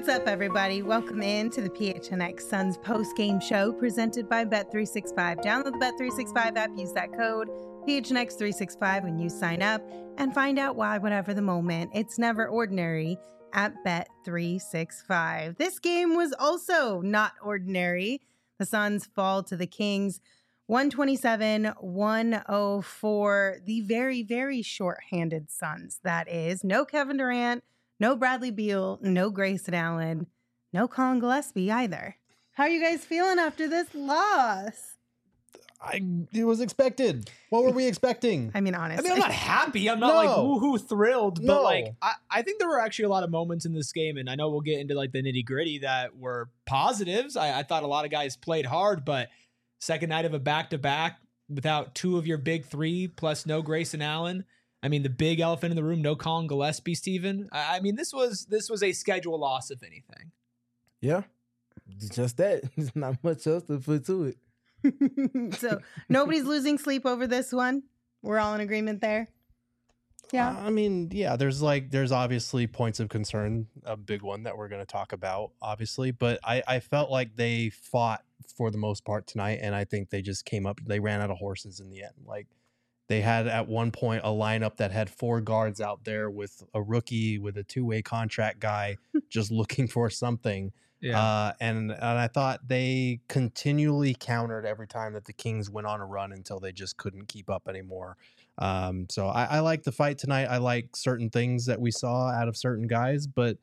What's up, everybody? Welcome in to the PHNX Suns post-game show presented by Bet365. Download the Bet365 app, use that code PHNX365 when you sign up, and find out why, whatever the moment, it's never ordinary at Bet365. This game was also not ordinary. The Suns fall to the Kings 127-104. The very, very short-handed Suns, that is. No Kevin Durant, no Bradley Beal, no Grayson Allen, no Colin Gillespie either. How are you guys feeling after this loss? It was expected. What were we expecting? I mean, honestly. I'm not happy. I'm not like woohoo thrilled, but like I think there were actually a lot of moments in this game, and I know we'll get into like the nitty gritty that were positives. I thought a lot of guys played hard, but second night of a back-to-back without two of your big three plus no Grayson Allen. I mean, the big elephant in the room, no Colin Gillespie, Steven. I mean, this was a schedule loss, if anything. Yeah, just that. There's not much else to put to it. So nobody's losing sleep over this one. We're all in agreement there. Yeah. I mean, yeah, there's obviously points of concern, a big one that we're going to talk about, obviously. But I felt like they fought for the most part tonight, and I think they just they ran out of horses in the end. Like, they had at one point a lineup that had four guards out there with a rookie, with a two-way contract guy just looking for something. Yeah. And I thought they continually countered every time that the Kings went on a run until they just couldn't keep up anymore. So I like the fight tonight. I like certain things that we saw out of certain guys, but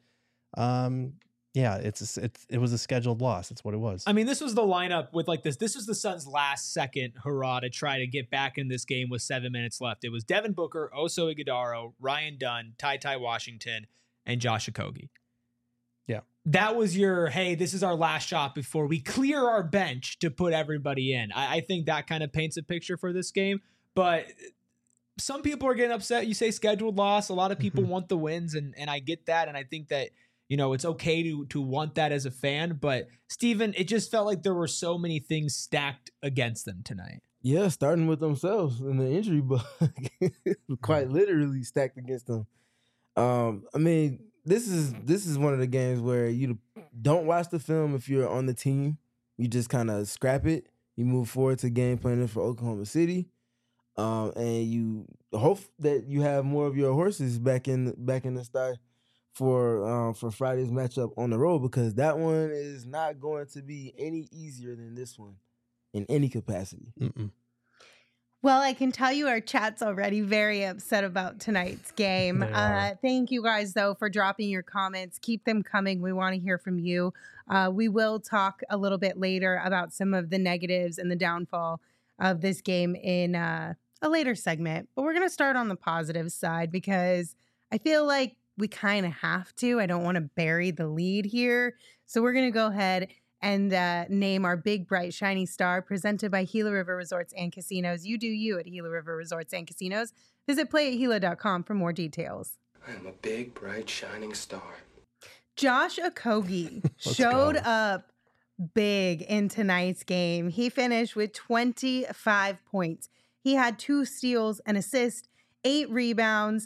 yeah, it was a scheduled loss. That's what it was. I mean, this was the lineup with like this. This was the Suns' last second hurrah to try to get back in this game with 7 minutes left. It was Devin Booker, Oso Ighodaro, Ryan Dunn, Ty Washington, and Josh Okogie. Yeah. That was your, hey, this is our last shot before we clear our bench to put everybody in. I think that kind of paints a picture for this game. But some people are getting upset. You say scheduled loss. A lot of people want the wins, and I get that. And I think that, you know, it's okay to want that as a fan. But, Steven, it just felt like there were so many things stacked against them tonight. Yeah, starting with themselves in the injury bug. Quite literally stacked against them. I mean, this is one of the games where you don't watch the film if you're on the team. You just kind of scrap it. You move forward to game planning for Oklahoma City, and you hope that you have more of your horses back in the start for Friday's matchup on the road, because that one is not going to be any easier than this one in any capacity. Mm-mm. Well, I can tell you our chat's already very upset about tonight's game. Thank you guys, though, for dropping your comments. Keep them coming. We want to hear from you. We will talk a little bit later about some of the negatives and the downfall of this game in a later segment. But we're going to start on the positive side because I feel like we kind of have to. I don't want to bury the lead here. So we're going to go ahead and name our big, bright, shiny star presented by Gila River Resorts and Casinos. You do you at Gila River Resorts and Casinos. Visit playatgila.com for more details. I am a big, bright, shining star. Josh Okogie showed up big in tonight's game. He finished with 25 points. He had 2 steals, an assist, 8 rebounds,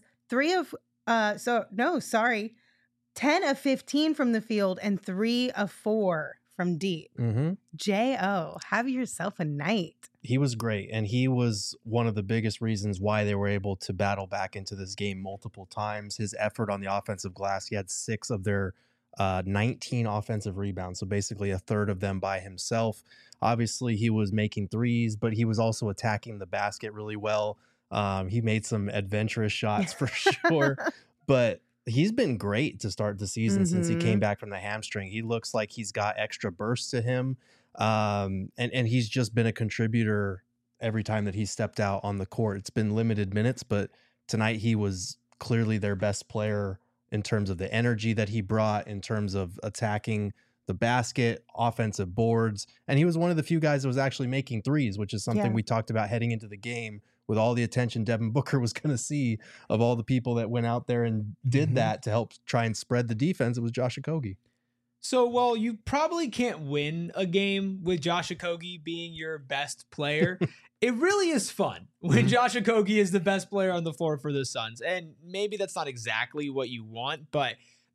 10 of 15 from the field, and 3 of 4 from deep. Mm-hmm. J.O., have yourself a night. He was great, and he was one of the biggest reasons why they were able to battle back into this game multiple times. His effort on the offensive glass, he had 6 of their 19 offensive rebounds, so basically a third of them by himself. Obviously, he was making threes, but he was also attacking the basket really well. He made some adventurous shots for sure, but he's been great to start the season since he came back from the hamstring. He looks like he's got extra burst to him. And he's just been a contributor every time that he stepped out on the court. It's been limited minutes, but tonight he was clearly their best player in terms of the energy that he brought, in terms of attacking the basket, offensive boards. And he was one of the few guys that was actually making threes, which is something we talked about heading into the game. With all the attention Devin Booker was going to see of all the people that went out there and did that to help try and spread the defense, it was Josh Okogie. So, while you probably can't win a game with Josh Okogie being your best player, it really is fun when Josh Okogie is the best player on the floor for the Suns. And maybe that's not exactly what you want, but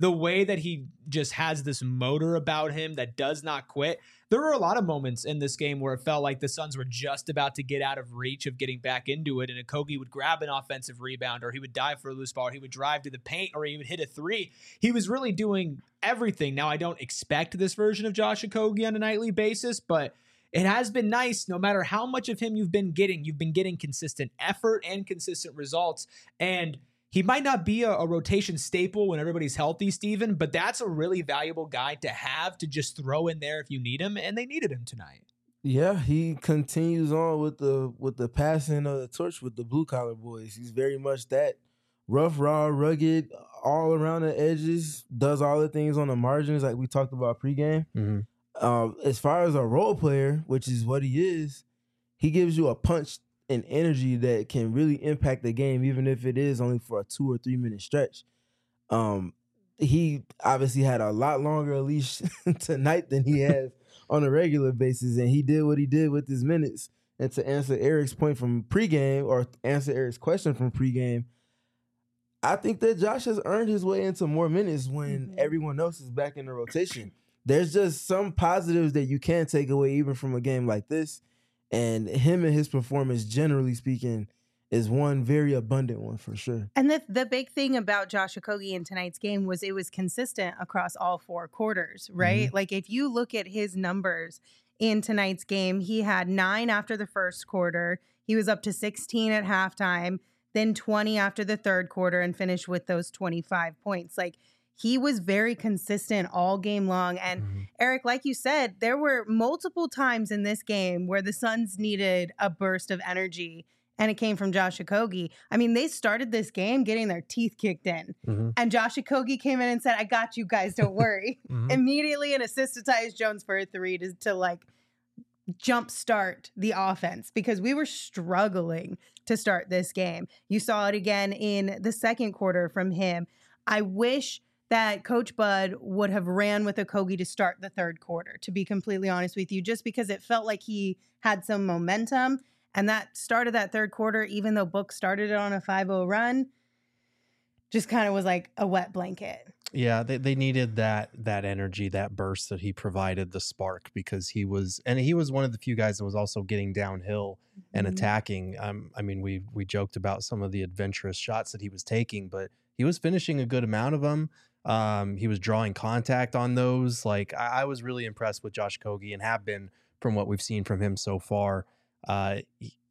the way that he just has this motor about him that does not quit. There were a lot of moments in this game where it felt like the Suns were just about to get out of reach of getting back into it, and Okogie would grab an offensive rebound, or he would dive for a loose ball, or he would drive to the paint, or he would hit a three. He was really doing everything. Now, I don't expect this version of Josh Okogie on a nightly basis, but it has been nice. No matter how much of him you've been getting consistent effort and consistent results. And he might not be a rotation staple when everybody's healthy, Steven, but that's a really valuable guy to have to just throw in there if you need him, and they needed him tonight. Yeah, he continues on with the passing of the torch with the blue collar boys. He's very much that rough, raw, rugged, all around the edges, does all the things on the margins like we talked about pregame. Mm-hmm. As far as a role player, which is what he is, he gives you a punch and energy that can really impact the game, even if it is only for a 2 or 3 minute stretch. He obviously had a lot longer leash tonight than he has on a regular basis, and he did what he did with his minutes. And to answer Eric's point from pregame, or answer Eric's question from pregame, I think that Josh has earned his way into more minutes when everyone else is back in the rotation. There's just some positives that you can take away even from a game like this. And him and his performance, generally speaking, is one very abundant one for sure. And the big thing about Josh Okogie in tonight's game was it was consistent across all 4 quarters, right? Mm-hmm. Like if you look at his numbers in tonight's game, he had 9 after the first quarter. He was up to 16 at halftime, then 20 after the third quarter, and finished with those 25 points. Like, he was very consistent all game long. And Eric, like you said, there were multiple times in this game where the Suns needed a burst of energy, and it came from Josh Okogie. I mean, they started this game getting their teeth kicked in. And Josh Okogie came in and said, "I got you guys, don't worry." Immediately an assist to Tyus Jones for a 3 to like jumpstart the offense, because we were struggling to start this game. You saw it again in the second quarter from him. I wish that Coach Bud would have ran with Okogie to start the third quarter, to be completely honest with you, just because it felt like he had some momentum. And that start of that third quarter, even though Book started it on a 5-0 run, just kind of was like a wet blanket. Yeah, they needed that energy, that burst that he provided, the spark, because he was one of the few guys that was also getting downhill and attacking. I mean, we joked about some of the adventurous shots that he was taking, but he was finishing a good amount of them. He was drawing contact on those. Like, I was really impressed with Josh Okogie, and have been from what we've seen from him so far. I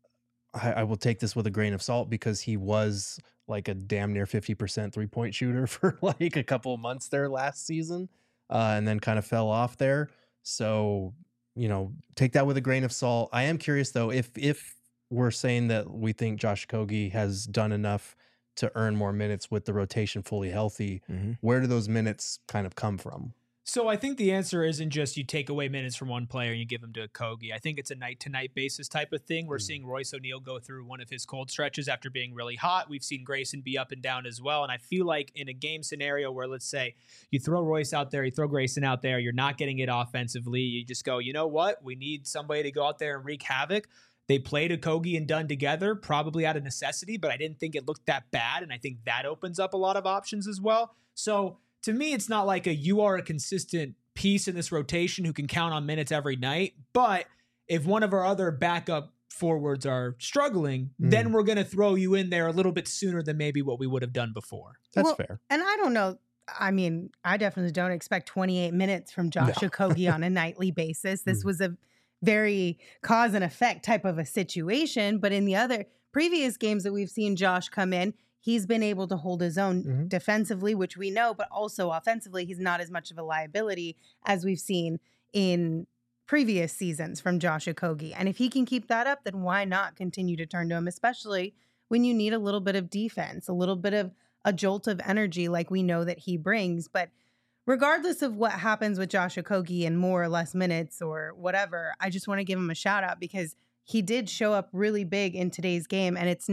will take this with a grain of salt, because he was like a damn near 50% 3-point shooter for like a couple of months there last season, and then kind of fell off there. So, take that with a grain of salt. I am curious though, if we're saying that we think Josh Okogie has done enough to earn more minutes with the rotation fully healthy, where do those minutes kind of come from? So I think the answer isn't just you take away minutes from one player and you give them to Okogie. I think it's a night-to-night basis type of thing. We're seeing Royce O'Neal go through one of his cold stretches after being really hot. We've seen Grayson be up and down as well. And I feel like in a game scenario where, let's say, you throw Royce out there, you throw Grayson out there, you're not getting it offensively, you just go, you know what? We need somebody to go out there and wreak havoc. They played Okogie and Dunn together, probably out of necessity, but I didn't think it looked that bad. And I think that opens up a lot of options as well. So to me, it's not like you are a consistent piece in this rotation who can count on minutes every night. But if one of our other backup forwards are struggling, then we're going to throw you in there a little bit sooner than maybe what we would have done before. That's fair. And I don't know. I mean, I definitely don't expect 28 minutes from Josh Okogie on a nightly basis. This was a very cause and effect type of a situation. But in the other previous games that we've seen Josh come in, he's been able to hold his own defensively, which we know, but also offensively, he's not as much of a liability as we've seen in previous seasons from Josh Okogie. And if he can keep that up, then why not continue to turn to him, especially when you need a little bit of defense, a little bit of a jolt of energy like we know that he brings. But regardless of what happens with Josh Okogie in more or less minutes or whatever, I just want to give him a shout out, because he did show up really big in today's game, and it's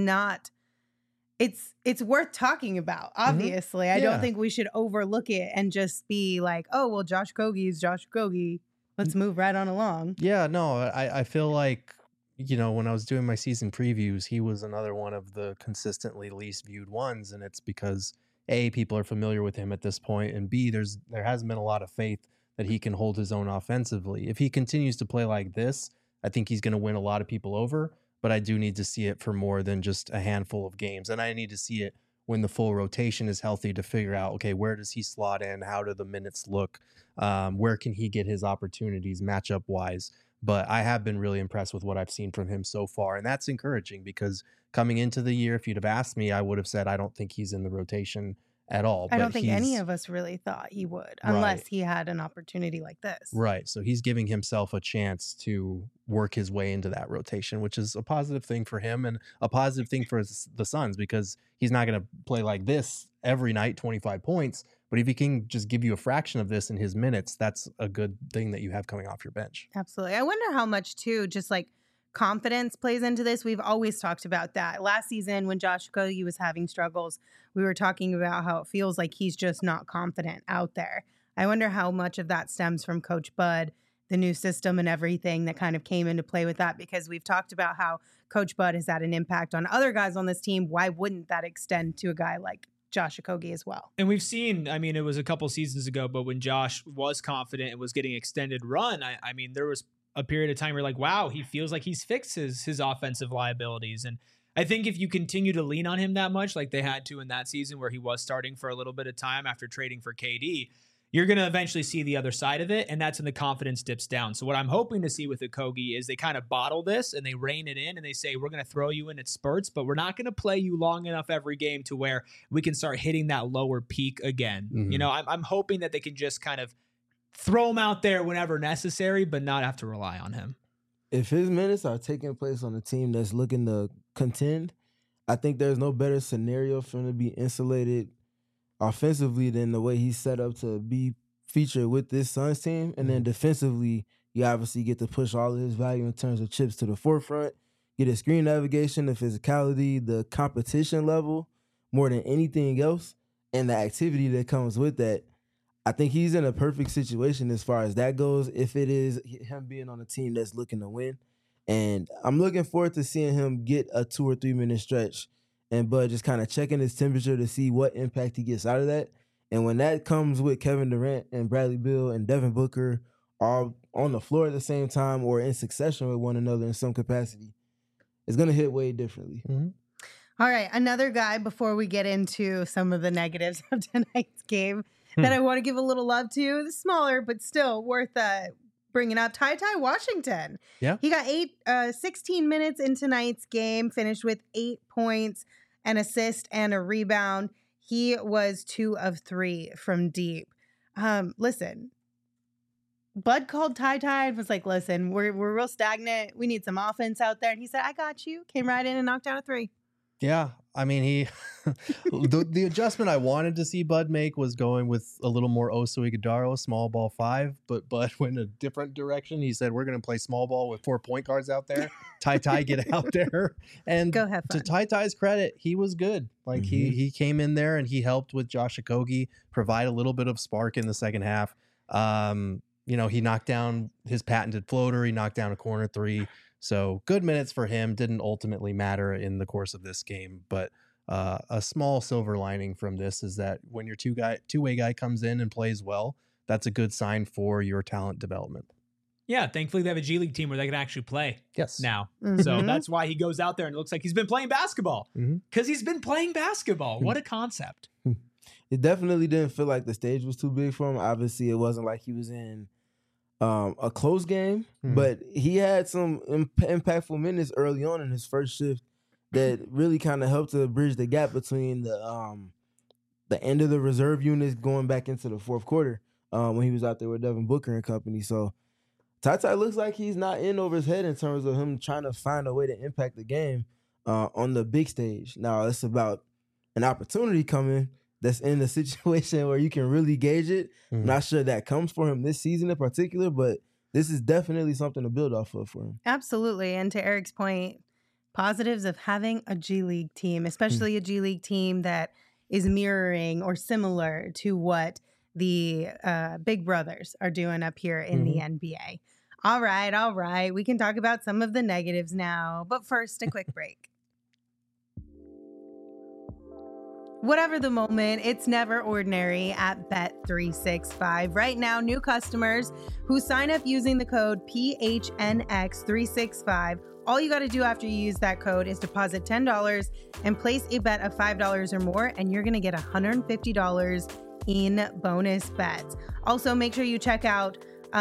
worth talking about, obviously. I don't think we should overlook it and just be like, oh, well, Josh Okogie is Josh Okogie. Let's move right on along. Yeah, no, I feel like, when I was doing my season previews, he was another one of the consistently least viewed ones. And it's because A, people are familiar with him at this point, and B, there hasn't been a lot of faith that he can hold his own offensively. If he continues to play like this, I think he's going to win a lot of people over, but I do need to see it for more than just a handful of games. And I need to see it when the full rotation is healthy to figure out, okay, where does he slot in? How do the minutes look? Where can he get his opportunities matchup wise? But I have been really impressed with what I've seen from him so far. And that's encouraging because coming into the year, if you'd have asked me, I would have said, I don't think he's in the rotation at all. I don't think any of us really thought he would, unless he had an opportunity like this. Right. So he's giving himself a chance to work his way into that rotation, which is a positive thing for him and a positive thing for the Suns, because he's not going to play like this every night, 25 points. But if he can just give you a fraction of this in his minutes, that's a good thing that you have coming off your bench. Absolutely. I wonder how much, too, just like confidence plays into this. We've always talked about that. Last season, when Josh Okogie was having struggles, we were talking about how it feels like he's just not confident out there. I wonder how much of that stems from Coach Bud, the new system and everything that kind of came into play with that, because we've talked about how Coach Bud has had an impact on other guys on this team. Why wouldn't that extend to a guy like Josh Okogie as well? And we've seen, I mean, it was a couple seasons ago, but when Josh was confident and was getting extended run, I mean, there was a period of time where like, wow, he feels like he's fixed his offensive liabilities. And I think if you continue to lean on him that much, like they had to in that season where he was starting for a little bit of time after trading for KD, you're going to eventually see the other side of it. And that's when the confidence dips down. So what I'm hoping to see with Okogie is they kind of bottle this and they rein it in and they say, we're going to throw you in at spurts, but we're not going to play you long enough every game to where we can start hitting that lower peak again. Mm-hmm. You know, I'm hoping that they can just kind of throw him out there whenever necessary, but not have to rely on him. If his minutes are taking place on a team that's looking to contend, I think there's no better scenario for him to be insulated offensively than the way he's set up to be featured with this Suns team. And then defensively, you obviously get to push all of his value in terms of chips to the forefront, get his screen navigation, the physicality, the competition level, more than anything else, and the activity that comes with that. I think he's in a perfect situation as far as that goes, if it is him being on a team that's looking to win. And I'm looking forward to seeing him get a 2 or 3 minute stretch and Bud just kind of checking his temperature to see what impact he gets out of that. And when that comes with Kevin Durant and Bradley Beal and Devin Booker all on the floor at the same time or in succession with one another in some capacity, it's going to hit way differently. Mm-hmm. All right, another guy before we get into some of the negatives of tonight's game that I want to give a little love to, smaller but still worth bringing up, Ty Washington. Yeah. He got 16 minutes in tonight's game, finished with 8 points, an assist, and a rebound. He was 2 of 3 from deep. Listen, Bud called Ty and was like, listen, we're real stagnant. We need some offense out there. And he said, I got you. Came right in and knocked down a 3. Yeah, I mean, he the adjustment I wanted to see Bud make was going with a little more Oso Ighodaro, small ball 5, but Bud went a different direction. He said, we're going to play small ball with 4 point guards out there. Ty, get out there. And go have fun. To Ty's credit, he was good. Like he came in there and he helped with Josh Okogie provide a little bit of spark in the second half. You know, he knocked down his patented floater. He knocked down a corner 3. So good minutes for him. Didn't ultimately matter in the course of this game, but a small silver lining from this is that when your two-way guy comes in and plays well, that's a good sign for your talent development. Yeah, thankfully they have a G League team where they can actually play. Yes. Now. So that's why he goes out there and it looks like he's been playing basketball. Because he's been playing basketball. What a concept. It definitely didn't feel like the stage was too big for him. Obviously, it wasn't like he was in a close game, but he had some impactful minutes early on in his first shift that really kind of helped to bridge the gap between the end of the reserve units going back into the fourth quarter when he was out there with Devin Booker and company. So Ty looks like he's not in over his head in terms of him trying to find a way to impact the game on the big stage. Now, it's about an opportunity coming that's in a situation where you can really gauge it. I'm not sure that comes for him this season in particular, but this is definitely something to build off of for him. Absolutely. And to Eric's point, positives of having a G League team, especially a G League team that is mirroring or similar to what the Big Brothers are doing up here in the NBA. All right. We can talk about some of the negatives now, but first, a quick break. Whatever the moment, it's never ordinary at Bet365. Right now, new customers who sign up using the code PHNX365, all you got to do after you use that code is deposit $10 and place a bet of $5 or more, and you're going to get $150 in bonus bets. Also, make sure you check out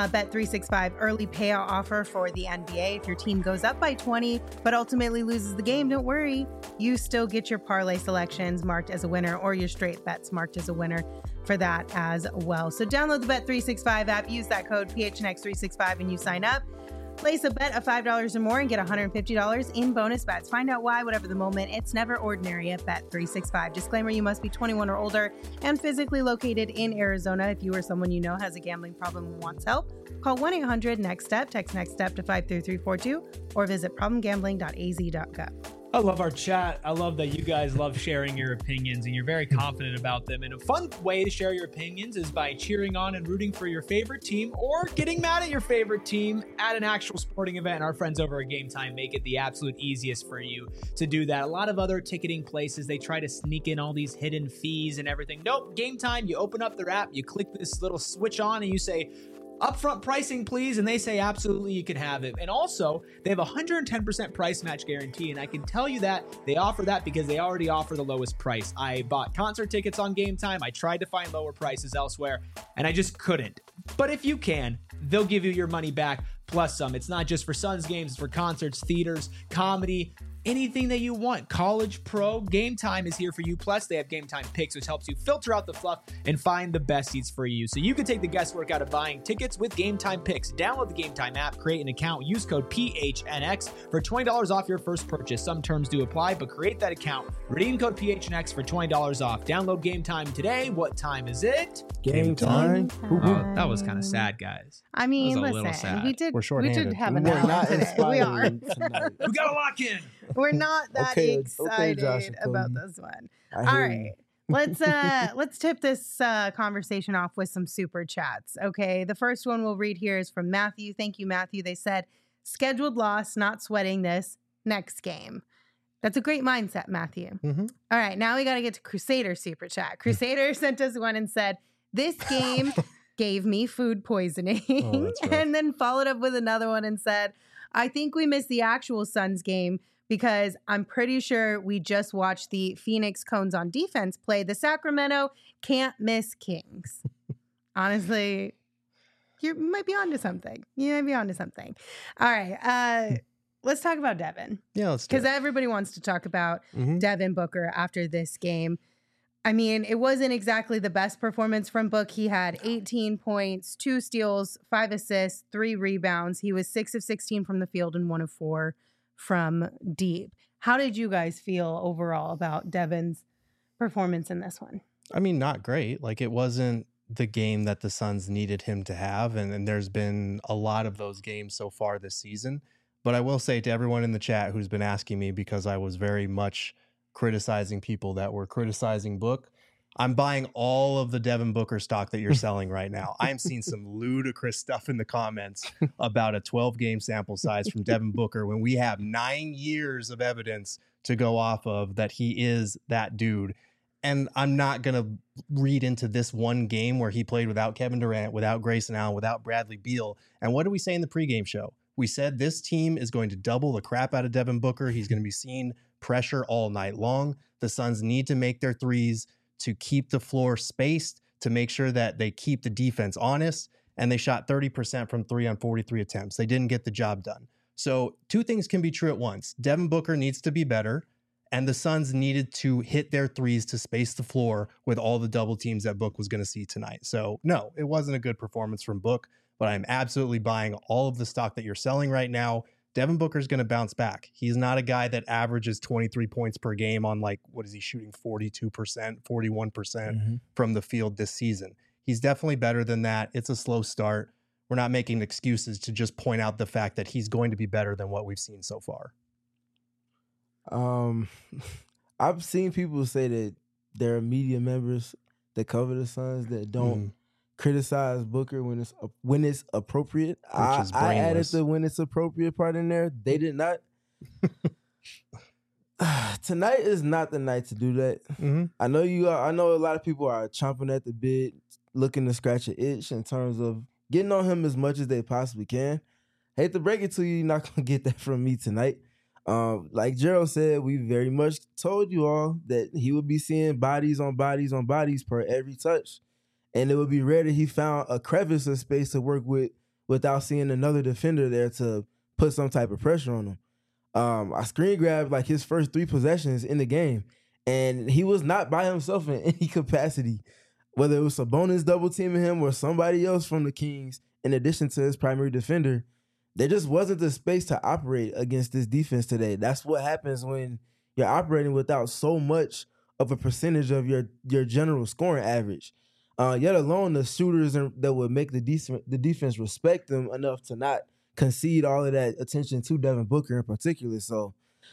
Bet365 early payout offer for the NBA. If your team goes up by 20 but ultimately loses the game, don't worry. You still get your parlay selections marked as a winner or your straight bets marked as a winner for that as well. So download the Bet365 app, use that code PHNX365 and you sign up. Place a bet of $5 or more and get $150 in bonus bets. Find out why, whatever the moment, it's never ordinary at Bet365. Disclaimer, you must be 21 or older and physically located in Arizona. If you or someone you know has a gambling problem and wants help, call 1-800-NEXT-STEP, text NEXT STEP to 53342, or visit problemgambling.az.gov. I love our chat. I love that you guys love sharing your opinions and you're very confident about them. And a fun way to share your opinions is by cheering on and rooting for your favorite team or getting mad at your favorite team at an actual sporting event. And our friends over at Game Time make it the absolute easiest for you to do that. A lot of other ticketing places, they try to sneak in all these hidden fees and everything. Nope, Game Time, you open up their app, you click this little switch on and you say, upfront pricing, please. And they say, absolutely, you can have it. And also, they have a 110% price match guarantee. And I can tell you that they offer that because they already offer the lowest price. I bought concert tickets on Game Time. I tried to find lower prices elsewhere, and I just couldn't. But if you can, they'll give you your money back plus some. It's not just for Suns games, it's for concerts, theaters, comedy, anything that you want. College, pro, Game Time is here for you. Plus, they have Game Time Picks, which helps you filter out the fluff and find the best seats for you. So you can take the guesswork out of buying tickets with Game Time Picks. Download the Game Time app, create an account, use code PHNX for $20 off your first purchase. Some terms do apply, but create that account. Redeem code PHNX for $20 off. Download Game Time today. What time is it? Game time. Oh, that was kind of sad, guys. I mean, That was a little listen, sad. we did shorthanded. have We a were nap not today. We are. inspired tonight. We got to lock in. We're not that Okay, excited Josh and about Cody. this one. I All hear right. you. Let's tip this conversation off with some super chats. Okay. The first one we'll read here is from Matthew. Thank you, Matthew. They said, scheduled loss, not sweating this next game. That's a great mindset, Matthew. Mm-hmm. All right. Now we got to get to Crusader super chat. Crusader sent us one and said, this game gave me food poisoning. Oh, that's rough. And then followed up with another one and said, I think we missed the actual Suns game because I'm pretty sure we just watched the Phoenix Cones on defense play the Sacramento can't miss Kings. Honestly, you might be onto something. You might be onto something. All right. Let's talk about Devin. Yeah, let's do Because it. everybody wants to talk about Mhm. Devin Booker after this game. I mean, it wasn't exactly the best performance from Book. He had 18 points, 2 steals, 5 assists, 3 rebounds. He was 6 of 16 from the field and 1 of 4 from deep. How did you guys feel overall about Devin's performance in this one? I mean, not great. Like, it wasn't the game that the Suns needed him to have. And there's been a lot of those games so far this season. But I will say to everyone in the chat who's been asking me, because I was very much criticizing people that were criticizing Book, I'm buying all of the Devin Booker stock that you're selling right now. I'm seeing some ludicrous stuff in the comments about a 12-game sample size from Devin Booker when we have 9 years of evidence to go off of that he is that dude. And I'm not going to read into this one game where he played without Kevin Durant, without Grayson Allen, without Bradley Beal. And what did we say in the pregame show? We said this team is going to double the crap out of Devin Booker. He's going to be seeing pressure all night long. The Suns need to make their threes to keep the floor spaced, to make sure that they keep the defense honest. And they shot 30% from 3 on 43 attempts. They didn't get the job done. So 2 things can be true at once. Devin Booker needs to be better, and the Suns needed to hit their threes to space the floor with all the double teams that Book was going to see tonight. So no, it wasn't a good performance from Book, but I'm absolutely buying all of the stock that you're selling right now. Devin Booker's going to bounce back. He's not a guy that averages 23 points per game on, like, what is he shooting, 42%, 41% from the field this season. He's definitely better than that. It's a slow start. We're not making excuses to just point out the fact that he's going to be better than what we've seen so far. I've seen people say that there are media members that cover the Suns that don't criticize Booker when it's appropriate. I added the when it's appropriate part in there. They did not. Tonight is not the night to do that. Mm-hmm. I know you are. I know a lot of people are chomping at the bit, looking to scratch an itch in terms of getting on him as much as they possibly can. Hate to break it to you, you're not gonna get that from me tonight. Like Gerald said, we very much told you all that he would be seeing bodies on bodies on bodies per every touch, and it would be rare that he found a crevice of space to work with without seeing another defender there to put some type of pressure on him. I screen grabbed like his first 3 possessions in the game, and he was not by himself in any capacity. Whether it was Sabonis double teaming him or somebody else from the Kings, in addition to his primary defender, there just wasn't the space to operate against this defense today. That's what happens when you're operating without so much of a percentage of your general scoring average. Yet alone the shooters that would make the defense respect them enough to not concede all of that attention to Devin Booker in particular. So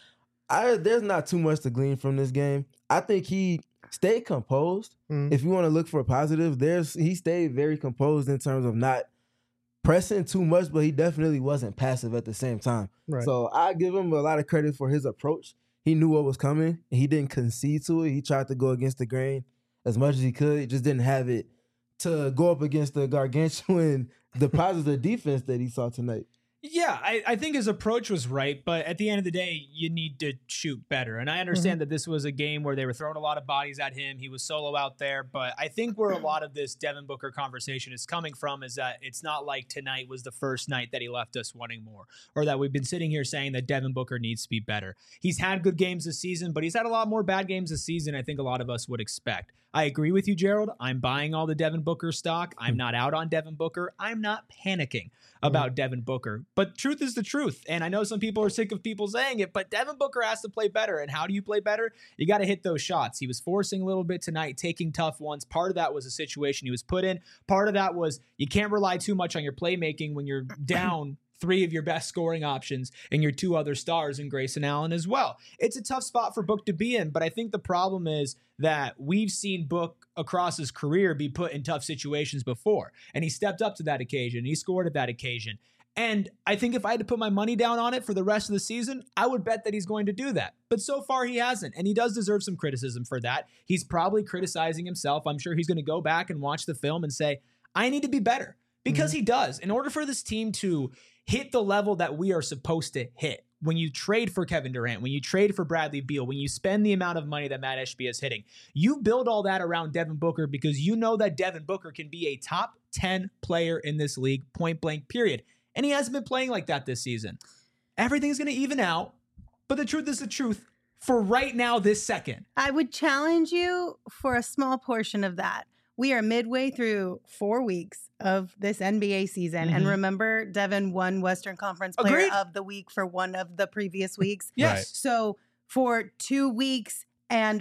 there's not too much to glean from this game. I think he stayed composed. If you want to look for a positive, he stayed very composed in terms of not pressing too much, but he definitely wasn't passive at the same time. Right. So I give him a lot of credit for his approach. He knew what was coming. He didn't concede to it. He tried to go against the grain as much as he could. He just didn't have it to go up against the gargantuan deposits of defense that he saw tonight. Yeah, I think his approach was right, but at the end of the day, you need to shoot better. And I understand that this was a game where they were throwing a lot of bodies at him. He was solo out there, but I think where a lot of this Devin Booker conversation is coming from is that it's not like tonight was the first night that he left us wanting more, or that we've been sitting here saying that Devin Booker needs to be better. He's had good games this season, but he's had a lot more bad games this season I think a lot of us would expect. I agree with you, Gerald. I'm buying all the Devin Booker stock. I'm not out on Devin Booker. I'm not panicking about Devin Booker. But truth is the truth. And I know some people are sick of people saying it, but Devin Booker has to play better. And how do you play better? You got to hit those shots. He was forcing a little bit tonight, taking tough ones. Part of that was a situation he was put in. Part of that was you can't rely too much on your playmaking when you're down 3 of your best scoring options and your 2 other stars in Grayson Allen as well. It's a tough spot for Book to be in, but I think the problem is that we've seen Book across his career be put in tough situations before, and he stepped up to that occasion. He scored at that occasion. And I think if I had to put my money down on it for the rest of the season, I would bet that he's going to do that. But so far he hasn't, and he does deserve some criticism for that. He's probably criticizing himself. I'm sure he's going to go back and watch the film and say, I need to be better, because he does. In order for this team to hit the level that we are supposed to hit, when you trade for Kevin Durant, when you trade for Bradley Beal, when you spend the amount of money that Matt Ishbia is hitting, you build all that around Devin Booker because you know that Devin Booker can be a top 10 player in this league, point blank, period. And he hasn't been playing like that this season. Everything's going to even out, but the truth is the truth for right now, this second. I would challenge you for a small portion of that. We are midway through 4 weeks of this NBA season. And remember, Devin won Western Conference Player of the Week for one of the previous weeks. Yes. Right. So for 2 weeks and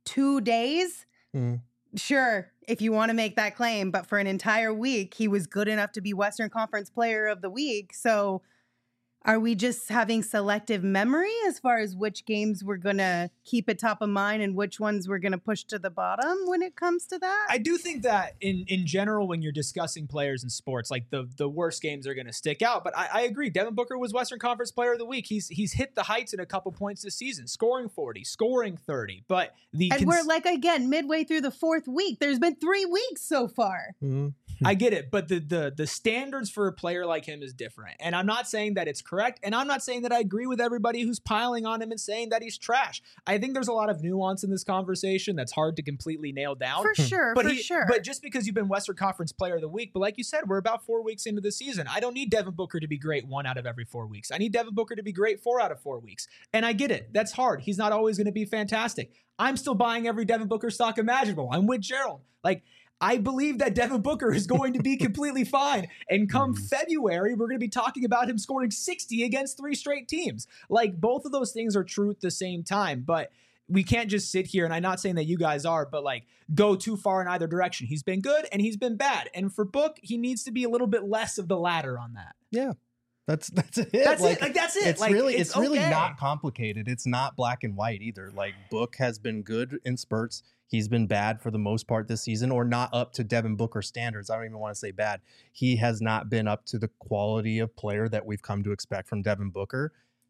2 days, sure, if you want to make that claim, but for an entire week, he was good enough to be Western Conference Player of the Week. So are we just having selective memory as far as which games we're going to keep at top of mind and which ones we're going to push to the bottom when it comes to that? I do think that in general, when you're discussing players in sports, like the worst games are going to stick out. But I agree. Devin Booker was Western Conference Player of the Week. He's hit the heights in a couple points this season, scoring 40, scoring 30. But we're like, again, midway through the 4th week. There's been 3 weeks so far. I get it, but the standards for a player like him is different. And I'm not saying that it's correct, and I'm not saying that I agree with everybody who's piling on him and saying that he's trash. I think there's a lot of nuance in this conversation that's hard to completely nail down. For sure, But just because you've been Western Conference Player of the Week, but like you said, we're about 4 weeks into the season. I don't need Devin Booker to be great 1 out of every 4 weeks. I need Devin Booker to be great 4 out of 4 weeks. And I get it. That's hard. He's not always going to be fantastic. I'm still buying every Devin Booker stock imaginable. I'm with Gerald. I believe that Devin Booker is going to be completely fine. And come February, we're going to be talking about him scoring 60 against 3 straight teams. Both of those things are true at the same time. But we can't just sit here, and I'm not saying that you guys are, but go too far in either direction. He's been good and he's been bad. And for Book, he needs to be a little bit less of the latter on that. Yeah. That's it. That's it. That's it. It's really not complicated. It's not black and white either. Book has been good in spurts. He's been bad for the most part this season, or not up to Devin Booker standards. I don't even want to say bad. He has not been up to the quality of player that we've come to expect from Devin Booker.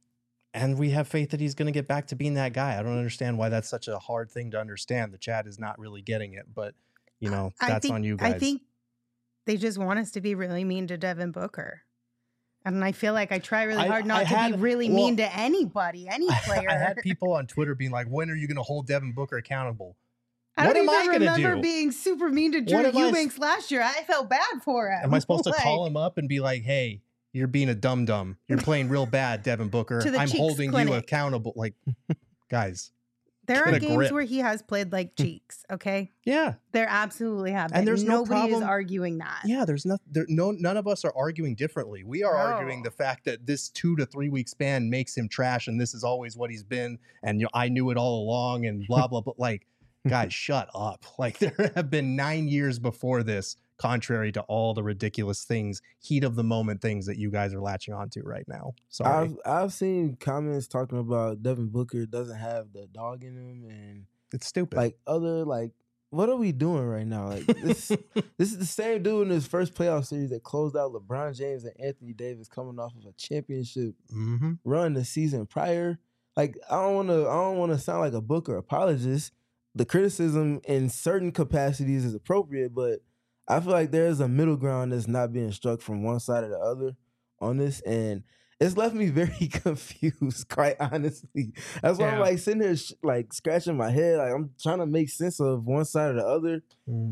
And we have faith that he's going to get back to being that guy. I don't understand why that's such a hard thing to understand. The chat is not really getting it, but that's on you guys. I think they just want us to be really mean to Devin Booker. And I feel like I try really hard not to be really mean to anybody, any player. I had people on Twitter being like, when are you going to hold Devin Booker accountable? I don't even remember being super mean to Drew Eubanks last year. I felt bad for him. Am I supposed to call him up and be like, hey, you're being a dum-dum. You're playing real bad, Devin Booker. I'm holding you accountable. Like, guys. There are games where he has played like cheeks, okay? Yeah. There absolutely have been. And there's nobody is arguing that. Yeah, none of us are arguing differently. We are arguing the fact that this 2 to 3 week span makes him trash and this is always what he's been and I knew it all along and blah blah blah. Like, guys, shut up. Like, there have been 9 years before this, contrary to all the ridiculous things, heat of the moment things that you guys are latching onto right now. Sorry. I've seen comments talking about Devin Booker doesn't have the dog in him, and it's stupid. Like, what are we doing right now? Like, this is the same dude in his first playoff series that closed out LeBron James and Anthony Davis coming off of a championship run the season prior. Like, I don't want to sound like a Booker apologist. The criticism in certain capacities is appropriate, but I feel like there's a middle ground that's not being struck from one side or the other on this, and it's left me very confused, quite honestly. That's why I'm like sitting here like scratching my head, like I'm trying to make sense of one side or the other.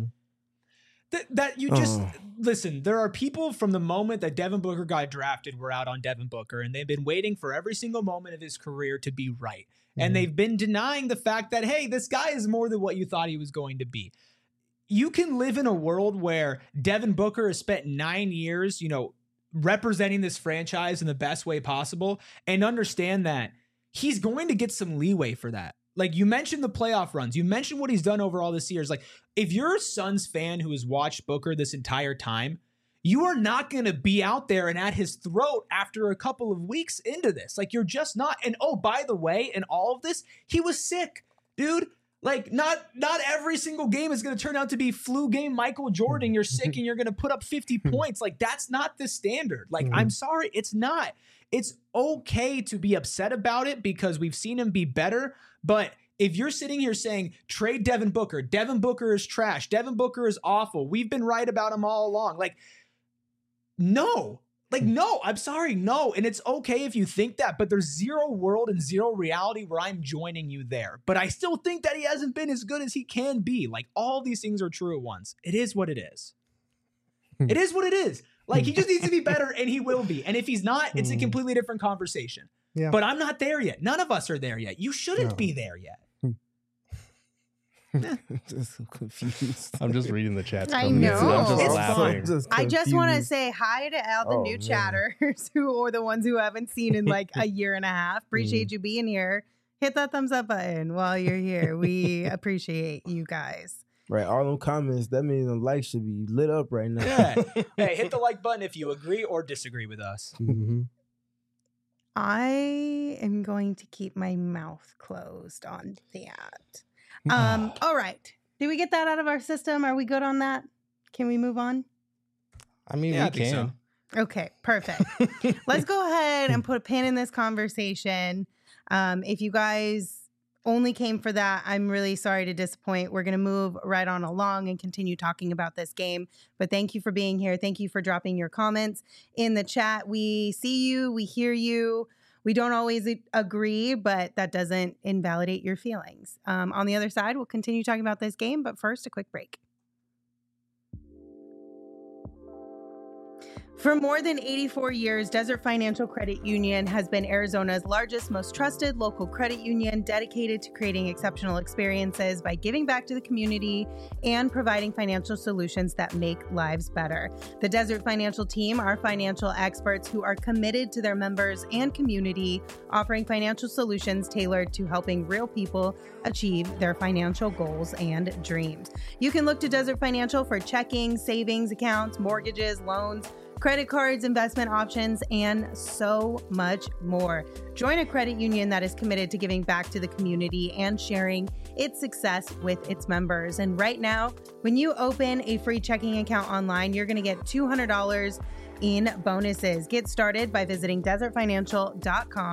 That you just listen. There are people from the moment that Devin Booker got drafted were out on Devin Booker, and they've been waiting for every single moment of his career to be right, and they've been denying the fact that, hey, this guy is more than what you thought he was going to be. You can live in a world where Devin Booker has spent 9 years, representing this franchise in the best way possible, and understand that he's going to get some leeway for that. Like, you mentioned the playoff runs. You mentioned what he's done over all this years. Like, if you're a Suns fan who has watched Booker this entire time, you are not going to be out there and at his throat after a couple of weeks into this. Like, you're just not. And oh, by the way, in all of this, he was sick, dude. Like, not every single game is going to turn out to be flu game Michael Jordan. You're sick and you're going to put up 50 points. Like, that's not the standard. Like, I'm sorry, it's not. It's okay to be upset about it because we've seen him be better. But if you're sitting here saying, trade Devin Booker is trash, Devin Booker is awful, we've been right about him all along. Like, no. Like, no, I'm sorry, no. And it's okay if you think that, but there's zero world and zero reality where I'm joining you there. But I still think that he hasn't been as good as he can be. Like, all these things are true at once. It is what it is. It is what it is. Like, he just needs to be better, and he will be. And if he's not, it's a completely different conversation. Yeah. But I'm not there yet. None of us are there yet. You shouldn't be there yet. I'm just so confused. I'm just reading the chat. I know. I'm just laughing. I just want to say hi to all the new chatters or the ones who haven't seen in like a year and a half. Appreciate you being here. Hit that thumbs up button while you're here. We appreciate you guys. Right, all them comments, that means the likes should be lit up right now. Yeah. Hey, hit the like button if you agree or disagree with us. I am going to keep my mouth closed on that. All right. Did we get that out of our system? Are we good on that? Can we move on? I mean, we can. So. Okay, perfect. Let's go ahead and put a pin in this conversation. If you guys only came for that, I'm really sorry to disappoint. We're going to move right on along and continue talking about this game. But thank you for being here. Thank you for dropping your comments in the chat. We see you. We hear you. We don't always agree, but that doesn't invalidate your feelings. On the other side, we'll continue talking about this game, but first, a quick break. For more than 84 years, Desert Financial Credit Union has been Arizona's largest, most trusted local credit union dedicated to creating exceptional experiences by giving back to the community and providing financial solutions that make lives better. The Desert Financial team are financial experts who are committed to their members and community, offering financial solutions tailored to helping real people achieve their financial goals and dreams. You can look to Desert Financial for checking, savings accounts, mortgages, loans, credit cards, investment options, and so much more. Join a credit union that is committed to giving back to the community and sharing its success with its members. And right now, when you open a free checking account online, you're going to get $200 in bonuses. Get started by visiting desertfinancial.com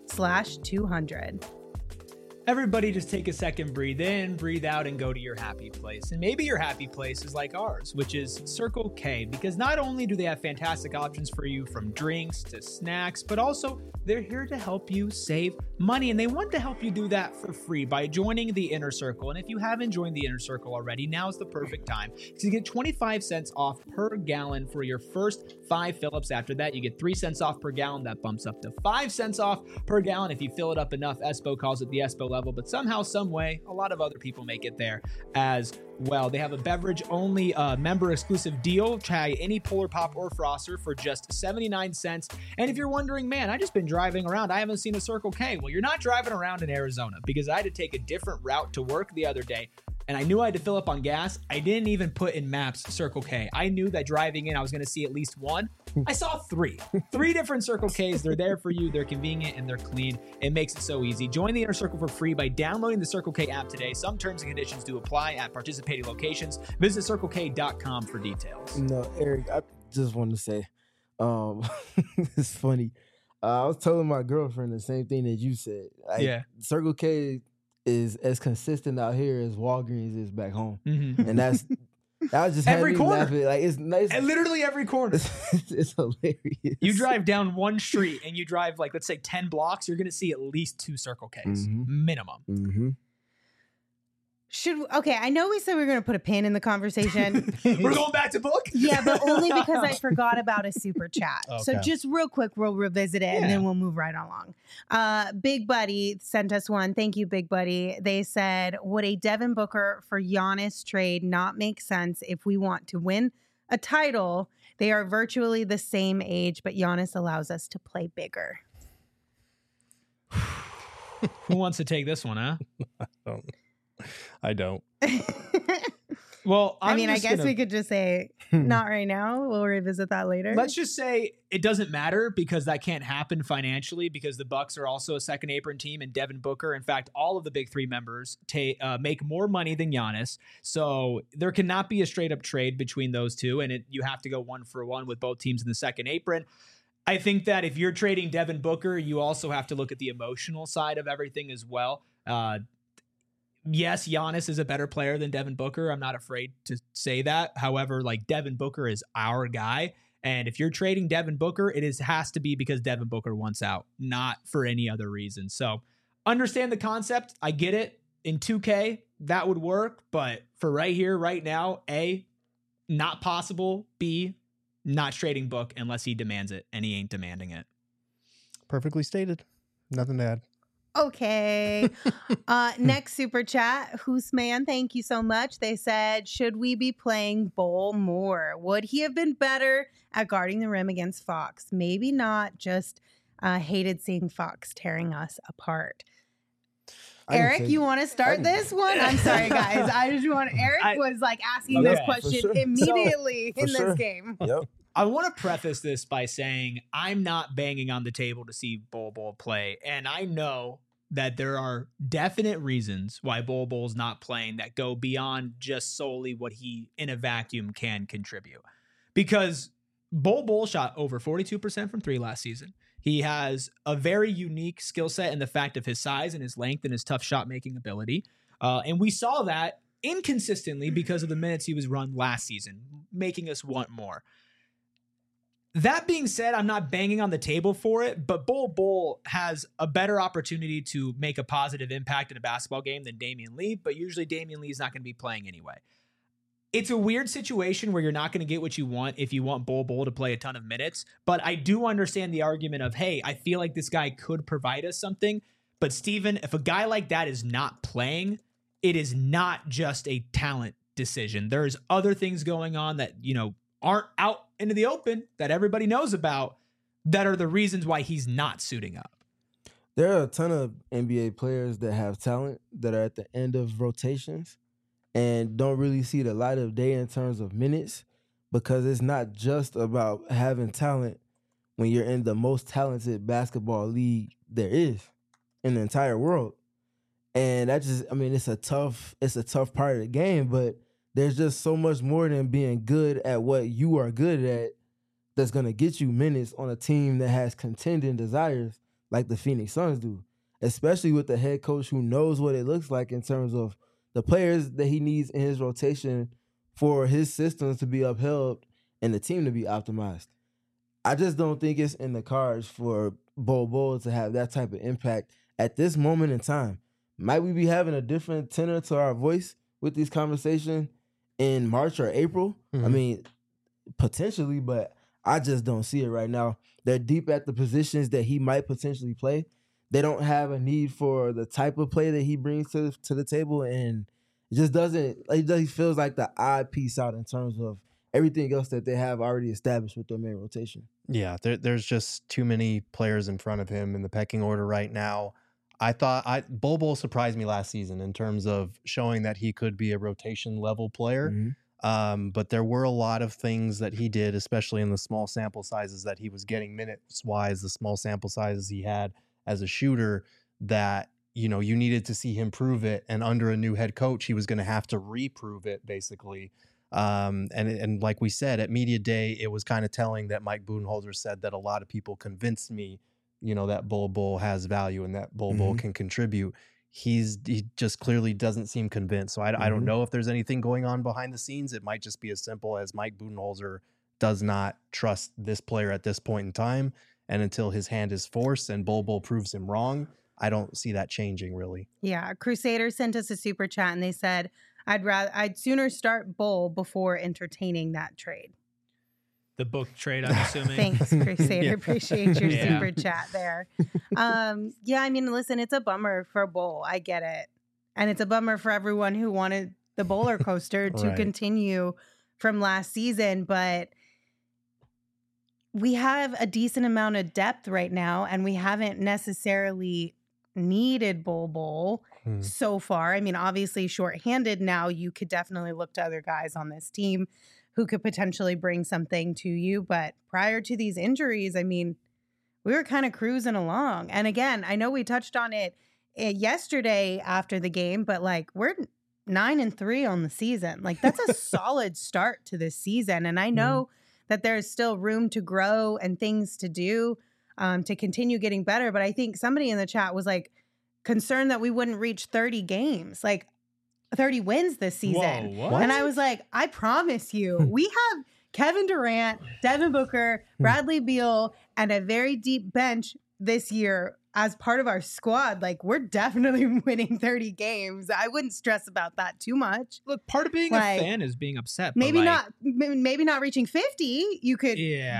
circlek.com/200. Everybody just take a second, breathe in, breathe out, and go to your happy place. And maybe your happy place is like ours, which is Circle K, because not only do they have fantastic options for you from drinks to snacks, but also they're here to help you save money. And they want to help you do that for free by joining the Inner Circle. And if you haven't joined the Inner Circle already, now's the perfect time to get 25 cents off per gallon for your first 5 fill-ups. After that, you get 3 cents off per gallon. That bumps up to 5 cents off per gallon if you fill it up enough. Espo calls it the Espo level, but somehow, some way, a lot of other people make it there as well. They have a beverage-only member-exclusive deal. Try any Polar Pop or Froster for just 79 cents. And if you're wondering, man, I just been driving around, I haven't seen a Circle K. Well, you're not driving around in Arizona, because I had to take a different route to work the other day, and I knew I had to fill up on gas. I didn't even put in maps Circle K. I knew that driving in, I was going to see at least one. I saw 3 different Circle Ks. They're there for you. They're convenient and they're clean. It makes it so easy. Join the Inner Circle for free by downloading the Circle K app today. Some terms and conditions do apply at participating locations. Visit circlek.com for details. No, Eric, I just want to say, it's funny. I was telling my girlfriend the same thing that you said. Yeah. Circle K is as consistent out here as Walgreens is back home. Mm-hmm. And I was just every corner. laughing. Like, it's nice. And literally every corner. It's hilarious. You drive down one street and you drive, like, let's say 10 blocks, you're going to see at least 2 Circle Ks, minimum. Mm-hmm. I know we said we were going to put a pin in the conversation. We're going back to book? Yeah, but only because I forgot about a super chat. Okay. So just real quick, we'll revisit it and then we'll move right along. Big Buddy sent us one. Thank you, Big Buddy. They said, would a Devin Booker for Giannis trade not make sense if we want to win a title? They are virtually the same age, but Giannis allows us to play bigger. Who wants to take this one, huh? I don't. Well, I guess we could just say not right now. We'll revisit that later. Let's just say it doesn't matter, because that can't happen financially, because the Bucks are also a second apron team, and Devin Booker, in fact, all of the big 3 members make more money than Giannis. So there cannot be a straight up trade between those two, and you have to go 1-for-1 with both teams in the second apron. I think that if you're trading Devin Booker, you also have to look at the emotional side of everything as well. Yes, Giannis is a better player than Devin Booker. I'm not afraid to say that. However, like, Devin Booker is our guy. And if you're trading Devin Booker, has to be because Devin Booker wants out, not for any other reason. So understand the concept. I get it. In 2K, that would work. But for right here, right now, A, not possible. B, not trading Book unless he demands it, and he ain't demanding it. Perfectly stated. Nothing to add. Okay. Next super chat. Who's man? Thank you so much. They said, should we be playing Bol more? Would he have been better at guarding the rim against Fox? Maybe not. Just hated seeing Fox tearing us apart. Eric, you want to start this one? I'm sorry, guys. Eric was like asking this question immediately in this game. Yep. I want to preface this by saying I'm not banging on the table to see Bol play. And I know that there are definite reasons why Bol's not playing that go beyond just solely what he in a vacuum can contribute. Because Bol shot over 42% from 3 last season. He has a very unique skill set in the fact of his size and his length and his tough shot making ability. And we saw that inconsistently because of the minutes he was run last season, making us want more. That being said, I'm not banging on the table for it, but Bol has a better opportunity to make a positive impact in a basketball game than Damian Lee, but usually Damian Lee is not going to be playing anyway. It's a weird situation where you're not going to get what you want if you want Bol to play a ton of minutes, but I do understand the argument of, hey, I feel like this guy could provide us something, but Steven, if a guy like that is not playing, it is not just a talent decision. There's other things going on that, aren't out into the open that everybody knows about that are the reasons why he's not suiting up. There are a ton of NBA players that have talent that are at the end of rotations and don't really see the light of day in terms of minutes, because it's not just about having talent when you're in the most talented basketball league there is in the entire world. And that just, it's a tough part of the game, but there's just so much more than being good at what you are good at that's going to get you minutes on a team that has contending desires like the Phoenix Suns do, especially with the head coach who knows what it looks like in terms of the players that he needs in his rotation for his systems to be upheld and the team to be optimized. I just don't think it's in the cards for Bol Bol to have that type of impact at this moment in time. Might we be having a different tenor to our voice with these conversations in March or April? I mean, potentially, but I just don't see it right now. They're deep at the positions that he might potentially play. They don't have a need for the type of play that he brings to the table, and it just doesn't. He feels like the odd piece out in terms of everything else that they have already established with their main rotation. Yeah, there's just too many players in front of him in the pecking order right now. I thought Bol Bol surprised me last season in terms of showing that he could be a rotation level player. But there were a lot of things that he did, especially in the small sample sizes that he was getting minutes wise, the small sample sizes he had as a shooter, that, you know, you needed to see him prove it. And under a new head coach, he was going to have to reprove it, basically. And like we said, at Media Day, it was kind of telling that Mike Budenholzer said that a lot of people convinced me, you know, that Bol Bol has value and that Bol Bol can contribute. He just clearly doesn't seem convinced. So I don't know if there's anything going on behind the scenes. It might just be as simple as Mike Budenholzer does not trust this player at this point in time. And until his hand is forced and Bol Bol proves him wrong, I don't see that changing really. Yeah. Crusader sent us a super chat and they said, I'd sooner start Bol before entertaining that trade. The book trade, I'm assuming. Thanks, Crusader. Appreciate your super chat there. Yeah, I mean, listen, it's a bummer for Bol. I get it. And it's a bummer for everyone who wanted the roller coaster to continue from last season. But we have a decent amount of depth right now, and we haven't necessarily needed Bol Bol so far. I mean, obviously, shorthanded now, you could definitely look to other guys on this team who could potentially bring something to you. But prior to these injuries, I mean, we were kind of cruising along. And again, I know we touched on it yesterday after the game, but like we're 9-3 on the season. Like that's a solid start to this season. And I know that there's still room to grow and things to do to continue getting better. But I think somebody in the chat was like concerned that we wouldn't reach 30 games. Like 30 wins this season. Whoa, what? And I was like, I promise you, we have Kevin Durant, Devin Booker, Bradley Beal, and a very deep bench this year as part of our squad. Like, we're definitely winning 30 games. I wouldn't stress about that too much. Look, part of being a fan is being upset. Maybe not reaching 50. You could,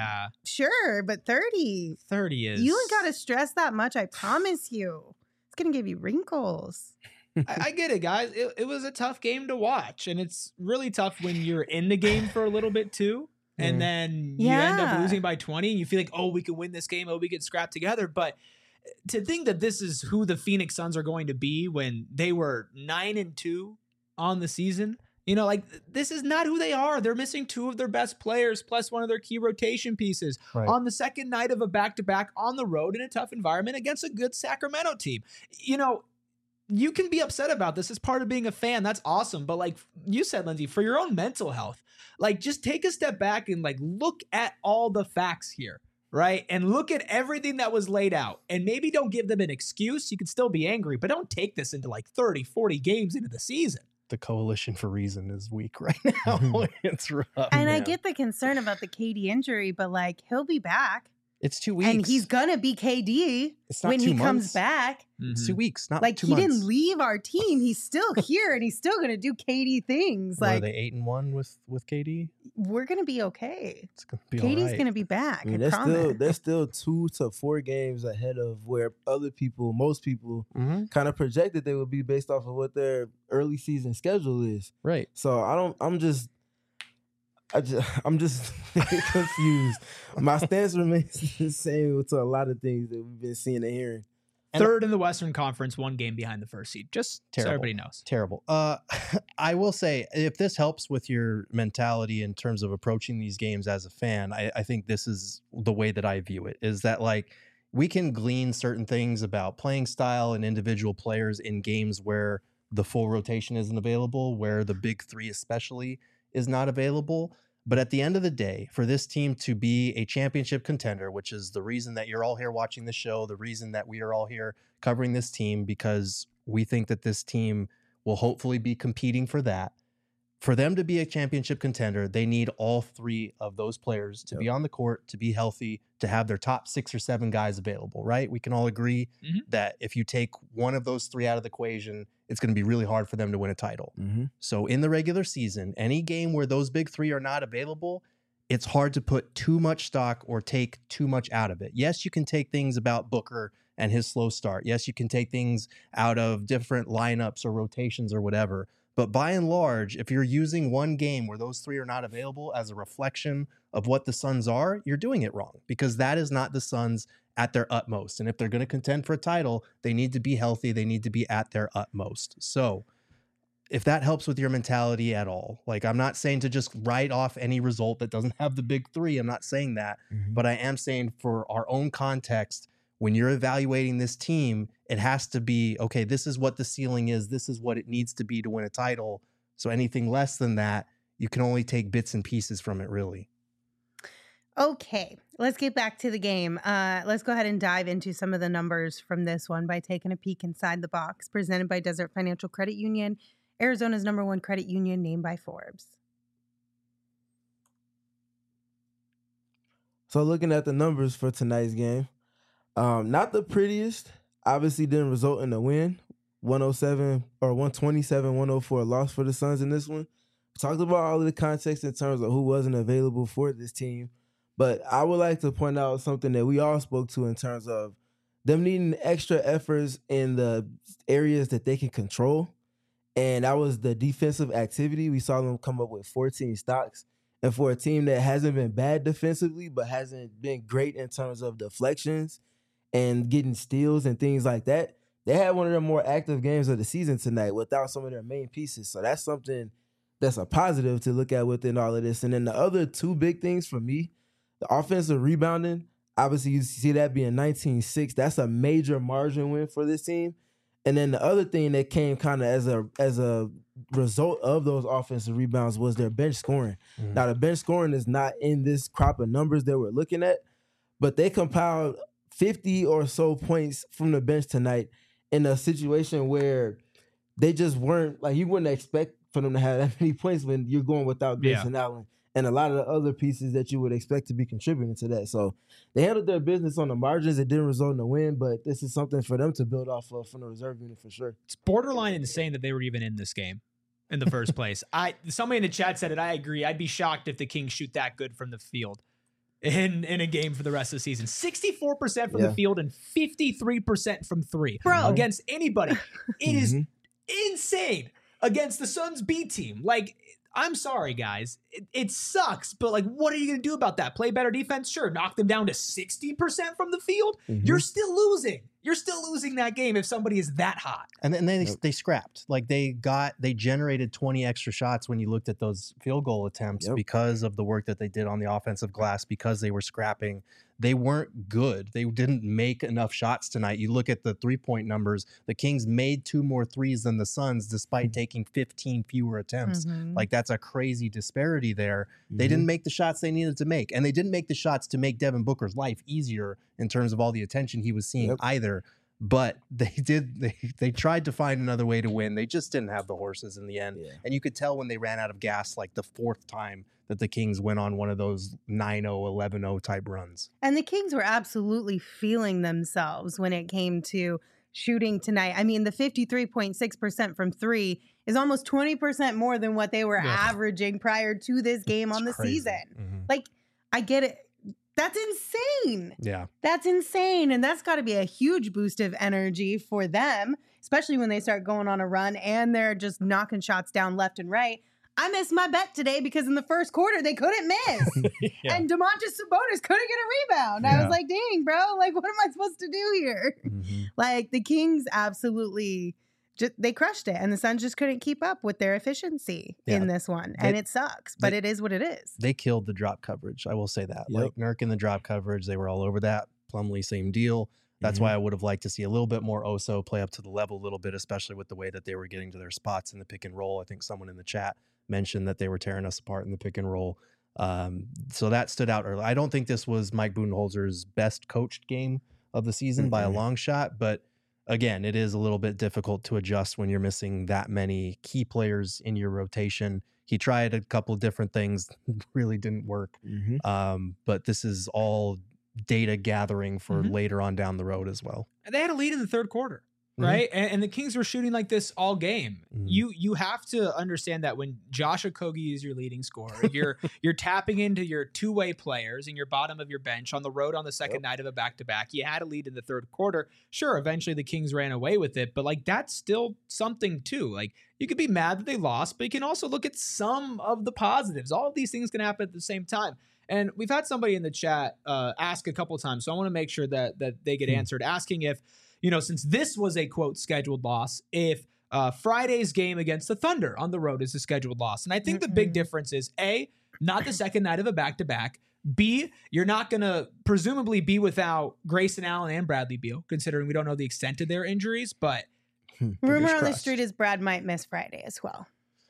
sure, but 30 is. You ain't got to stress that much. I promise you, it's gonna give you wrinkles. I get it, guys. It was a tough game to watch, and it's really tough when you're in the game for a little bit too, and then you end up losing by 20, and you feel like, oh, we can win this game, oh, we can scrap together. But to think that this is who the Phoenix Suns are going to be when they were 9-2 on the season, you know, like this is not who they are. They're missing two of their best players plus one of their key rotation pieces on the second night of a back-to-back on the road in a tough environment against a good Sacramento team. You know, you can be upset about this as part of being a fan. That's awesome. But like you said, Lindsay, for your own mental health, like just take a step back and like look at all the facts here, right? And look at everything that was laid out. And maybe don't give them an excuse. You can still be angry, but don't take this into like 30, 40 games into the season. The coalition for reason is weak right now. It's rough. And I get the concern about the KD injury, but like he'll be back. It's 2 weeks. And he's going to be KD when he comes back. It's 2 weeks, not like 2 months. He didn't leave our team. He's still here and he's still going to do KD things. Are like they 8-1 with KD? We're going to be okay. It's going to be KD's going to be back. I mean, they're still 2 to 4 games ahead of where most people kind of projected they would be based off of what their early season schedule is. Right. So I'm just confused. My stance remains the same to a lot of things that we've been seeing and hearing. Third in the Western Conference, 1 game behind the first seed. Just so everybody knows. Terrible. I will say, if this helps with your mentality in terms of approaching these games as a fan, I think this is the way that I view it, is that like we can glean certain things about playing style and individual players in games where the full rotation isn't available, where the big three especially is not available. But at the end of the day, for this team to be a championship contender, which is the reason that you're all here watching the show, the reason that we are all here covering this team, because we think that this team will hopefully be competing for that. For them to be a championship contender, they need all three of those players to be on the court, to be healthy, to have their top 6 or 7 guys available, right? We can all agree that if you take one of those three out of the equation, it's going to be really hard for them to win a title. So in the regular season, any game where those big three are not available, it's hard to put too much stock or take too much out of it. Yes, you can take things about Booker and his slow start. Yes, you can take things out of different lineups or rotations or whatever. But by and large, if you're using one game where those three are not available as a reflection of what the Suns are, you're doing it wrong, because that is not the Suns at their utmost. And if they're going to contend for a title, they need to be healthy. They need to be at their utmost. So if that helps with your mentality at all, like, I'm not saying to just write off any result that doesn't have the big three. I'm not saying that, but I am saying for our own context, when you're evaluating this team, it has to be, okay, this is what the ceiling is. This is what it needs to be to win a title. So anything less than that, you can only take bits and pieces from it, really. Okay, let's get back to the game. Let's go ahead and dive into some of the numbers from this one by taking a peek inside the box. Presented by Desert Financial Credit Union, Arizona's #1 credit union, named by Forbes. So looking at the numbers for tonight's game, not the prettiest. Obviously didn't result in a win. 127-104 loss for the Suns in this one. Talked about all of the context in terms of who wasn't available for this team. But I would like to point out something that we all spoke to in terms of them needing extra efforts in the areas that they can control. And that was the defensive activity. We saw them come up with 14 stocks. And for a team that hasn't been bad defensively, but hasn't been great in terms of deflections and getting steals and things like that, they had one of their more active games of the season tonight without some of their main pieces. So that's something that's a positive to look at within all of this. And then the other two big things for me, the offensive rebounding, obviously you see that being 19-6. That's a major margin win for this team. And then the other thing that came kind of as a result of those offensive rebounds was their bench scoring. Now, the bench scoring is not in this crop of numbers that we're looking at, but they compiled 50 or so points from the bench tonight in a situation where they just weren't, like, you wouldn't expect for them to have that many points when you're going without Grayson Allen and a lot of the other pieces that you would expect to be contributing to that. So they handled their business on the margins. It didn't result in a win, but this is something for them to build off of from the reserve unit for sure. It's borderline insane that they were even in this game in the first place. Somebody in the chat said it. I agree. I'd be shocked if the Kings shoot that good from the field in a game for the rest of the season. 64% from the field and 53% from three. Bro. Against anybody. It is insane against the Suns B team. Like, I'm sorry, guys. It sucks, but, like, what are you going to do about that? Play better defense? Sure. Knock them down to 60% from the field? You're still losing. You're still losing that game if somebody is that hot. And then they scrapped. Like, they generated 20 extra shots when you looked at those field goal attempts because of the work that they did on the offensive glass, because they were scrapping. They weren't good. They didn't make enough shots tonight. You look at the 3-point numbers. The Kings made 2 more threes than the Suns despite taking 15 fewer attempts. Like, that's a crazy disparity there. They didn't make the shots they needed to make. And they didn't make the shots to make Devin Booker's life easier in terms of all the attention he was seeing either. But they tried to find another way to win. They just didn't have the horses in the end. And you could tell when they ran out of gas, like the 4th time that the Kings went on one of those 9-0, 11-0 type runs. And the Kings were absolutely feeling themselves when it came to shooting tonight. I mean, the 53.6% from three is almost 20% more than what they were averaging prior to this game on the season. Like, I get it. That's insane. Yeah. That's insane. And that's got to be a huge boost of energy for them, especially when they start going on a run and they're just knocking shots down left and right. I missed my bet today because in the first quarter, they couldn't miss. And Domantas Sabonis couldn't get a rebound. I was like, dang, bro, like, what am I supposed to do here? Like, the Kings absolutely, they crushed it. And the Suns just couldn't keep up with their efficiency in this one. And it sucks, but it is what it is. They killed the drop coverage. I will say that. Like, Nurk in the drop coverage, they were all over that. Plumlee, same deal. That's why I would have liked to see a little bit more Oso play up to the level a little bit, especially with the way that they were getting to their spots in the pick and roll. I think someone in the chat mentioned that they were tearing us apart in the pick and roll. So that stood out early. I don't think this was Mike Budenholzer's best coached game of the season by a long shot, but again, it is a little bit difficult to adjust when you're missing that many key players in your rotation. He tried a couple of different things, really didn't work. But this is all data gathering for later on down the road as well. And they had a lead in the third quarter, right? And the Kings were shooting like this all game. You have to understand that when Josh Okogie is your leading scorer, you're tapping into your two-way players and your bottom of your bench on the road on the second night of a back-to-back. You had a lead in the third quarter. Sure, eventually the Kings ran away with it, but like that's still something too. Like you could be mad that they lost, but you can also look at some of the positives. All of these things can happen at the same time. And we've had somebody in the chat ask a couple of times, so I want to make sure that they get answered, asking if, since this was a, quote, scheduled loss, if Friday's game against the Thunder on the road is a scheduled loss. And I think the big difference is, A, not the second night of a back-to-back. B, you're not going to presumably be without Grayson Allen and Bradley Beal, considering we don't know the extent of their injuries, but... Rumor on the street is Brad might miss Friday as well.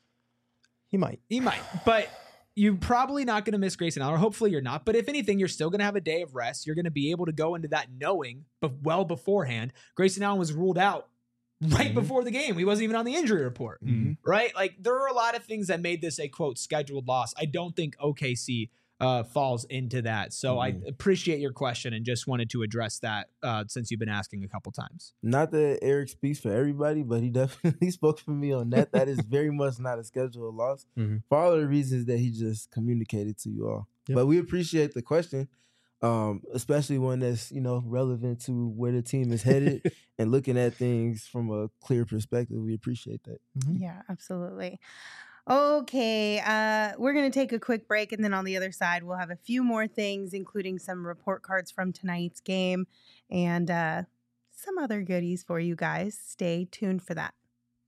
He might, but... You're probably not going to miss Grayson Allen, or hopefully you're not. But if anything, you're still going to have a day of rest. You're going to be able to go into that knowing, but well beforehand. Grayson Allen was ruled out right before the game. He wasn't even on the injury report, right? Like there are a lot of things that made this a, quote, scheduled loss. I don't think OKC falls into that. So I appreciate your question and just wanted to address that since you've been asking a couple times. Not that Eric speaks for everybody, but he definitely spoke for me on that. That is very much not a scheduled loss for all of the reasons that he just communicated to you all. But we appreciate the question, especially one that's, relevant to where the team is headed and looking at things from a clear perspective. We appreciate that. Yeah, absolutely. Okay, we're going to take a quick break, and then on the other side, we'll have a few more things, including some report cards from tonight's game and some other goodies for you guys. Stay tuned for that.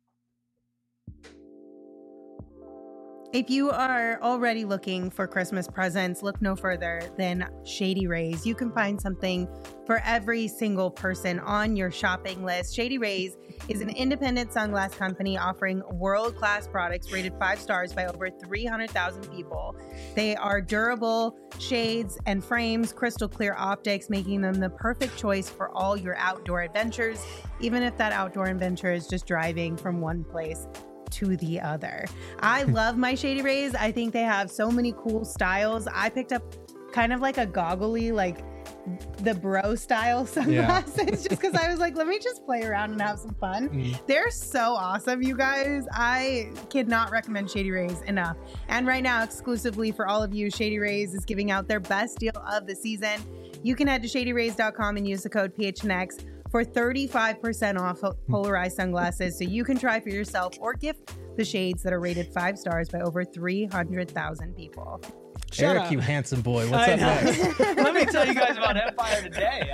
If you are already looking for Christmas presents, look no further than Shady Rays. You can find something for every single person on your shopping list. Shady Rays is an independent sunglass company offering world-class products rated 5 stars by over 300,000 people. They are durable shades and frames, crystal clear optics, making them the perfect choice for all your outdoor adventures, even if that outdoor adventure is just driving from one place to the other. I love my Shady Rays. I think they have so many cool styles. I picked up kind of like a goggly, like the bro style sunglasses just because I was like, let me just play around and have some fun. They're so awesome, you guys. I cannot recommend Shady Rays enough. And right now, exclusively for all of you, Shady Rays is giving out their best deal of the season. You can head to shadyrays.com and use the code PHNX for 35% off polarized sunglasses, so you can try for yourself or gift the shades that are rated 5 stars by over 300,000 people. Eric, you handsome boy. What's up next? Let me tell you guys about Empire Today.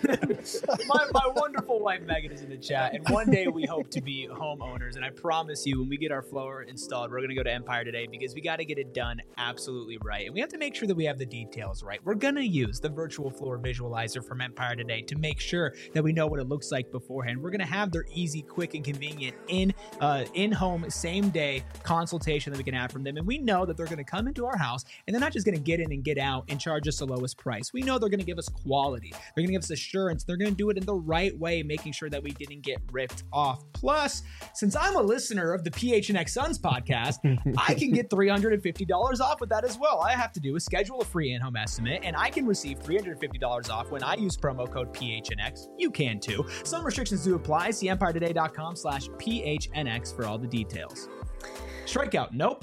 My wonderful wife Megan is in the chat, and one day we hope to be homeowners. And I promise you, when we get our floor installed, we're going to go to Empire Today because we got to get it done absolutely right. And we have to make sure that we have the details right. We're going to use the virtual floor visualizer from Empire Today to make sure that we know what it looks like beforehand. We're going to have their easy, quick, and convenient in-home, same-day consultation that we can have from them. And we know that they're going to come into our house, and they're not just going to get in and get out and charge us the lowest price. We know they're going to give us quality. They're going to give us assurance. They're going to do it in the right way, making sure that we didn't get ripped off. Plus, since I'm a listener of the PHNX Suns podcast, I can get $350 off with that as well. All I have to do is schedule a free in-home estimate, and I can receive $350 off when I use promo code PHNX. You can too. Some restrictions do apply. See EmpireToday.com/PHNX for all the details. Strikeout, nope.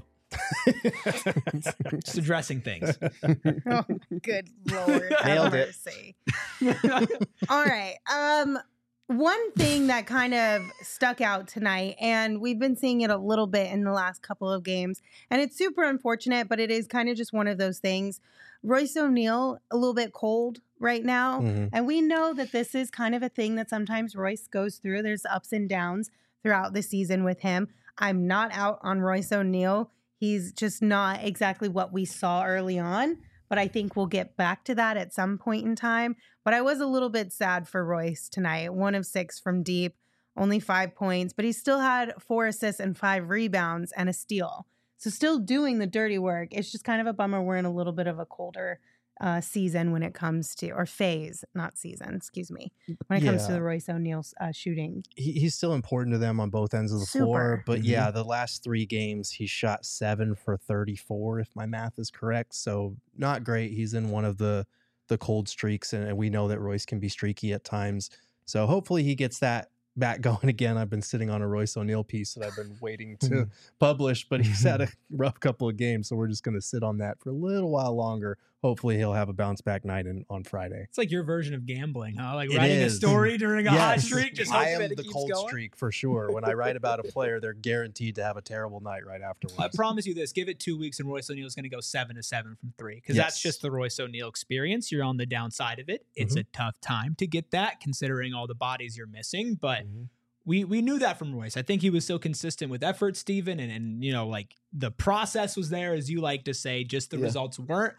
Just addressing things. Oh, good Lord. Nailed it. All right. One thing that kind of stuck out tonight, and we've been seeing it a little bit in the last couple of games, and it's super unfortunate, but it is kind of just one of those things. Royce O'Neal, a little bit cold right now, and we know that this is kind of a thing that sometimes Royce goes through. There's ups and downs throughout the season with him. I'm not out on Royce O'Neal. He's just not exactly what we saw early on, but I think we'll get back to that at some point in time. But I was a little bit sad for Royce tonight. 1 of 6 from deep, only 5 points, but he still had 4 assists and 5 rebounds and a steal. So still doing the dirty work. It's just kind of a bummer. We're in a little bit of a colder season when it comes to, or phase, not season, excuse me, when it comes to the Royce O'Neal shooting. He's still important to them on both ends of the floor. But yeah, the last 3 games, he shot 7 for 34, if my math is correct. So not great. He's in one of the cold streaks, and we know that Royce can be streaky at times. So hopefully he gets that back going again. I've been sitting on a Royce O'Neal piece that I've been waiting to publish, but he's had a rough couple of games, so we're just going to sit on that for a little while longer. Hopefully he'll have a bounce back night on Friday. It's like your version of gambling, huh? Like writing a story during a hot streak. Just I am the cold streak for sure. When I write about a player, they're guaranteed to have a terrible night right afterwards. I promise you this: give it 2 weeks, and Royce O'Neal is going to go 7 of 7 from 3, because that's just the Royce O'Neal experience. You're on the downside of it. It's a tough time to get that, considering all the bodies you're missing, but. We knew that from Royce. I think he was so consistent with effort, Steven, and you know, like the process was there, as you like to say, just the results weren't.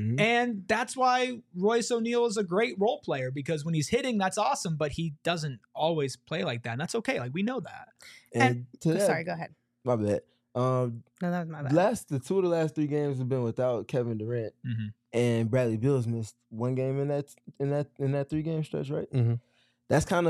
And that's why Royce O'Neal is a great role player, because when he's hitting, that's awesome, but he doesn't always play like that. And that's okay. Like, we know that. And sorry, go ahead. My bad. No, that was my bad. The 2 of the last 3 games have been without Kevin Durant, and Bradley Beal's missed 1 game in that 3-game stretch, right? That's kind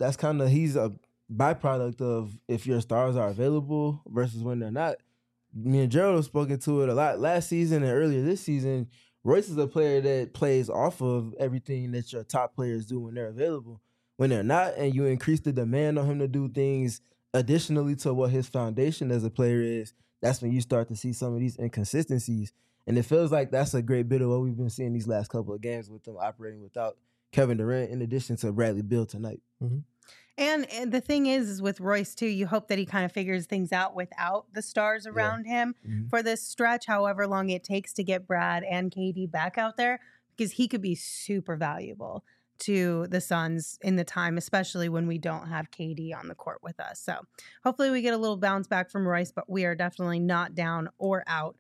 of he's a byproduct of if your stars are available versus when they're not. Me and Gerald have spoken to it a lot last season and earlier this season. Royce is a player that plays off of everything that your top players do when they're available. When they're not, and you increase the demand on him to do things additionally to what his foundation as a player is, that's when you start to see some of these inconsistencies. And it feels like that's a great bit of what we've been seeing these last couple of games with them operating without Kevin Durant, in addition to Bradley Beal tonight. And the thing is with Royce, too, you hope that he kind of figures things out without the stars around him for this stretch, however long it takes to get Brad and KD back out there, because he could be super valuable to the Suns in the time, especially when we don't have KD on the court with us. So hopefully we get a little bounce back from Royce, but we are definitely not down or out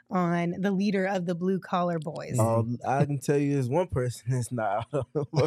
on the leader of the blue collar boys. I can tell you there's one person that's not out.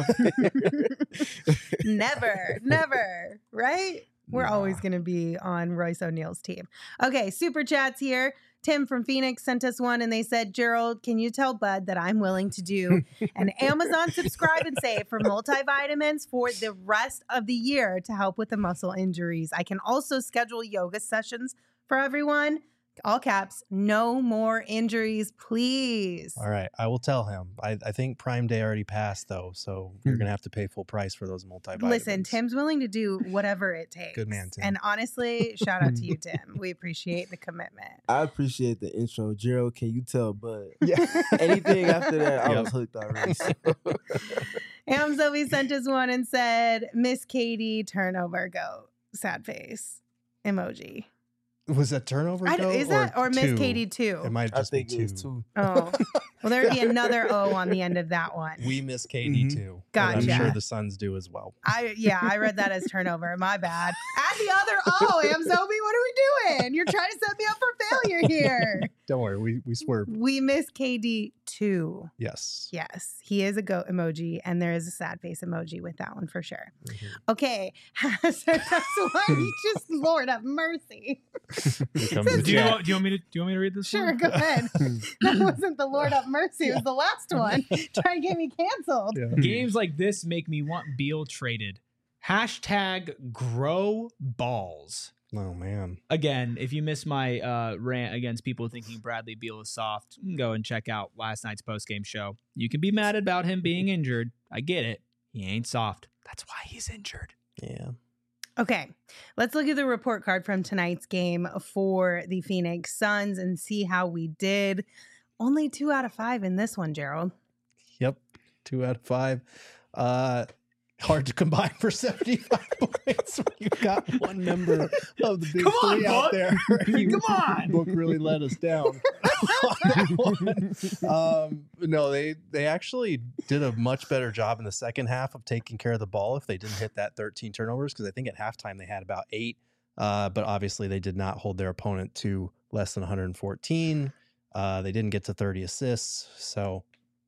Never, right? We're always going to be on Royce O'Neal's team. Okay, super chats here. Tim from Phoenix sent us one, and they said, Gerald, can you tell Bud that I'm willing to do an Amazon subscribe and save for multivitamins for the rest of the year to help with the muscle injuries? I can also schedule yoga sessions for everyone. All caps, no more injuries, please. All right, I will tell him. I think Prime Day already passed, though, so you're going to have to pay full price for those multivitamins. Listen, Tim's willing to do whatever it takes. Good man, Tim. And honestly, shout out to you, Tim. We appreciate the commitment. I appreciate the intro. Gerald, can you tell Bud? Yeah. Anything after that, I was hooked already. So. Zoe sent us one and said, Miss Katie, turnover, go. Sad face. Emoji. Was that turnover? Is that or Miss Katie 2? It might just be 2. Oh, well, there'd be another O on the end of that one. We miss Katie too. Gotcha. I'm sure the Suns do as well. I read that as turnover. My bad. Add the other O, Amzobi. What are we doing? You're trying to set me up for failure here. Don't worry, we swerved. We miss KD too. Yes. Yes, he is a goat emoji, and there is a sad face emoji with that one for sure. Okay, so that's why he just Lord have mercy. Do you want me to read this? Sure, one? go ahead. That wasn't the Lord have mercy. It was the last one. Trying to get me canceled. Yeah. Games like this make me want Beal traded. #grow balls. Oh, man. Again, if you missed my rant against people thinking Bradley Beal is soft, you can go and check out last night's postgame show. You can be mad about him being injured. I get it. He ain't soft. That's why he's injured. Yeah. Okay, let's look at the report card from tonight's game for the Phoenix Suns and see how we did. Only 2 out of 5 in this one, Gerald. Yep, 2 out of 5. Hard to combine for 75 points when you've got one member of the big three out there. Come on. Book really let us down on that one. No, they actually did a much better job in the second half of taking care of the ball if they didn't hit that 13 turnovers, because I think at halftime they had about 8. But obviously they did not hold their opponent to less than 114. They didn't get to 30 assists. So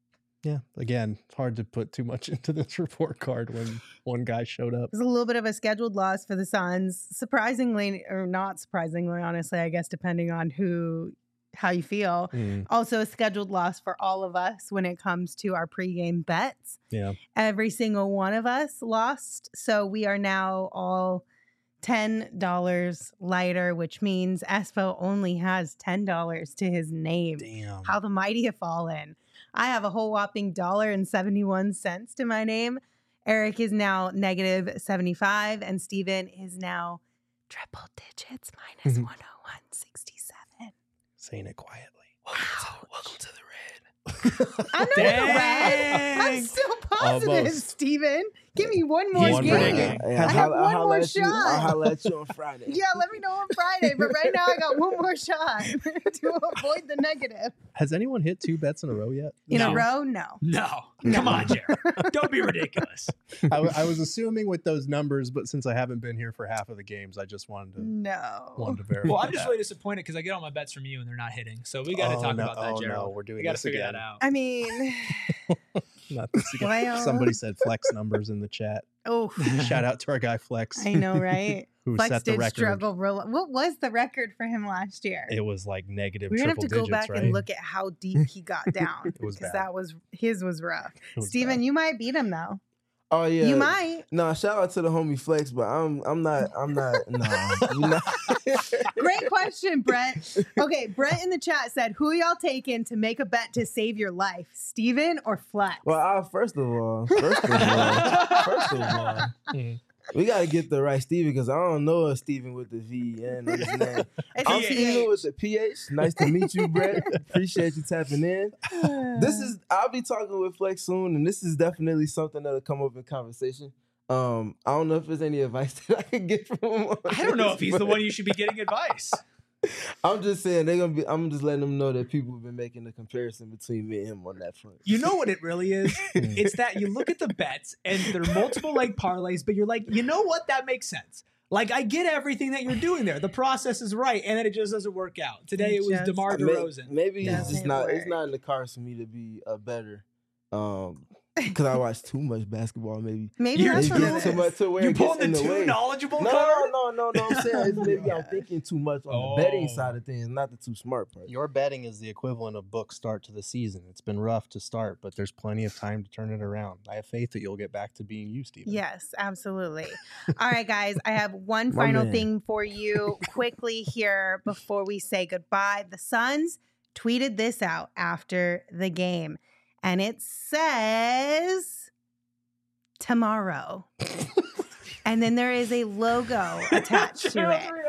Yeah, again, hard to put too much into this report card when one guy showed up. It was a little bit of a scheduled loss for the Suns. Surprisingly, or not surprisingly, honestly, I guess, depending on how you feel. Also a scheduled loss for all of us when it comes to our pregame bets. Yeah. Every single one of us lost. So we are now all $10 lighter, which means Espo only has $10 to his name. Damn. How the mighty have fallen. I have a whole whopping $1.71 to my name. Eric is now -75, and Steven is now triple digits minus 101.67. Saying it quietly. Welcome to the red. I'm not in the red. I'm still positive, Almost. Steven. Give me one more He's game. predicting. I have one more shot. I'll holler at you on Friday. Yeah, let me know on Friday. But right now, I got one more shot to avoid the negative. Has anyone hit 2 bets in a row yet? In No. a row? No. No. Come on, Jared. Don't be ridiculous. I was assuming with those numbers, but since I haven't been here for half of the games, I just wanted to No. verify. Well, I'm just that. really disappointed because I get all my bets from you and they're not hitting. So we got to talk about that, Gerald. No, we're doing We got to this figure again. that out. I mean, Not this again. Well. Somebody said Flex numbers in the chat. oh, Shout out to our guy Flex. I know, right? Who Flex set the did record. struggle. What was the record for him last year? It was like negative We're gonna have triple to go digits, back right? and look at how deep he got down It was because bad. that was his was rough. It was Steven, bad. you might beat him though. Oh yeah, You might. No, shout out to the homie Flex, but I'm not. No, you're not. Great question, Brent. Okay, Brent in the chat said, "Who y'all taking to make a bet to save your life, Steven or Flex?" Well, first of all, we gotta get the right Steven because I don't know a Steven with the V and his name. It's I'm a Steven with the PH. Nice to meet you, Brett. Appreciate you tapping in. I'll be talking with Flex soon, and this is definitely something that'll come up in conversation. I don't know if there's any advice that I can get from him. I don't know if he's the one you should be getting advice. I'm just saying I'm just letting them know that people have been making a comparison between me and him on that front. You know what it really is? It's that you look at the bets and there are multiple like parlays, but you're like, you know what? That makes sense. Like, I get everything that you're doing there. The process is right, and then it just doesn't work out. Today it was Just DeMar DeRozan. Maybe it's just Doesn't not. It's work. not in the cards for me to be a better. Because I watch too much basketball. Maybe Maybe You're that's what too it too is. much to where You're it gets pulling in the the too way. knowledgeable No, card? no. I'm saying it's maybe I'm thinking too much on the betting Oh. side of things, not the too smart part. Your betting is the equivalent of book start to the season. It's been rough to start, but there's plenty of time to turn it around. I have faith that you'll get back to being you, Steven. Yes, absolutely. All right, guys, I have one My final man. thing for you quickly here before we say goodbye. The Suns tweeted this out after the game, and it says tomorrow. And then there is a logo attached to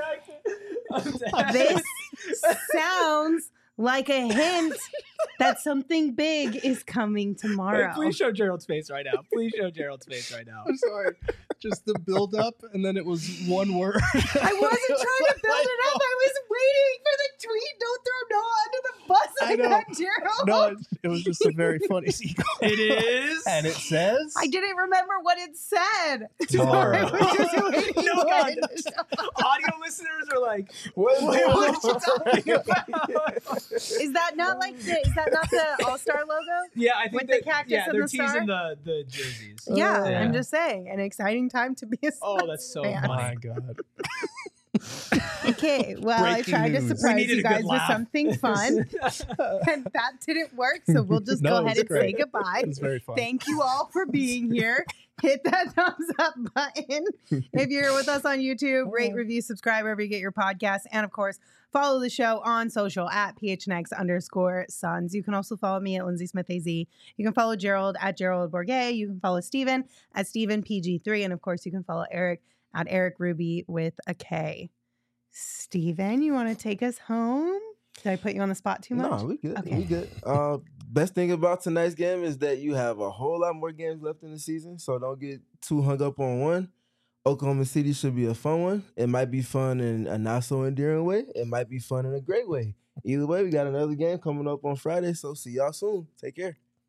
it. This sounds like a hint that something big is coming tomorrow. Please show Gerald's face right now. Please show Gerald's face right now. I'm sorry. Just the build up, and then it was one word. I wasn't trying to build it up. I was waiting for the tweet. Don't throw Noah under the bus I like know. that, Gerald. No, it was just a very funny sequence. It is. And it says, I didn't remember what it said. Tomorrow. I was just waiting No, for God. it to show up. Audio listeners are like, What what are you talking about? Is that not the All-Star logo? Yeah, I think With the cactus yeah, and they're the star? teasing the jerseys. Yeah, Yeah. I'm just saying. An exciting time to be a Oh, Suns that's so fan. oh funny. my God. Okay, well, I Breaking tried to news. We surprise needed you a good guys with laugh. something fun, and that didn't work. So we'll just No, go it ahead was and say great. goodbye. It's very fun. Thank you all for being here. Hit that thumbs up button. If you're with us on YouTube, rate, review, subscribe wherever you get your podcasts. And of course, follow the show on social at PHNX_Suns. You can also follow me at Lindsay Smith AZ. You can follow Gerald at Gerald Bourget. You can follow Steven at Steven PG3. And of course, you can follow Eric at Eric Ruby with a K. Steven, you want to take us home? Did I put you on the spot too much? No, we good. Okay. We good. Best thing about tonight's game is that you have a whole lot more games left in the season, so don't get too hung up on one. Oklahoma City should be a fun one. It might be fun in a not so endearing way. It might be fun in a great way. Either way, we got another game coming up on Friday, so see y'all soon. Take care.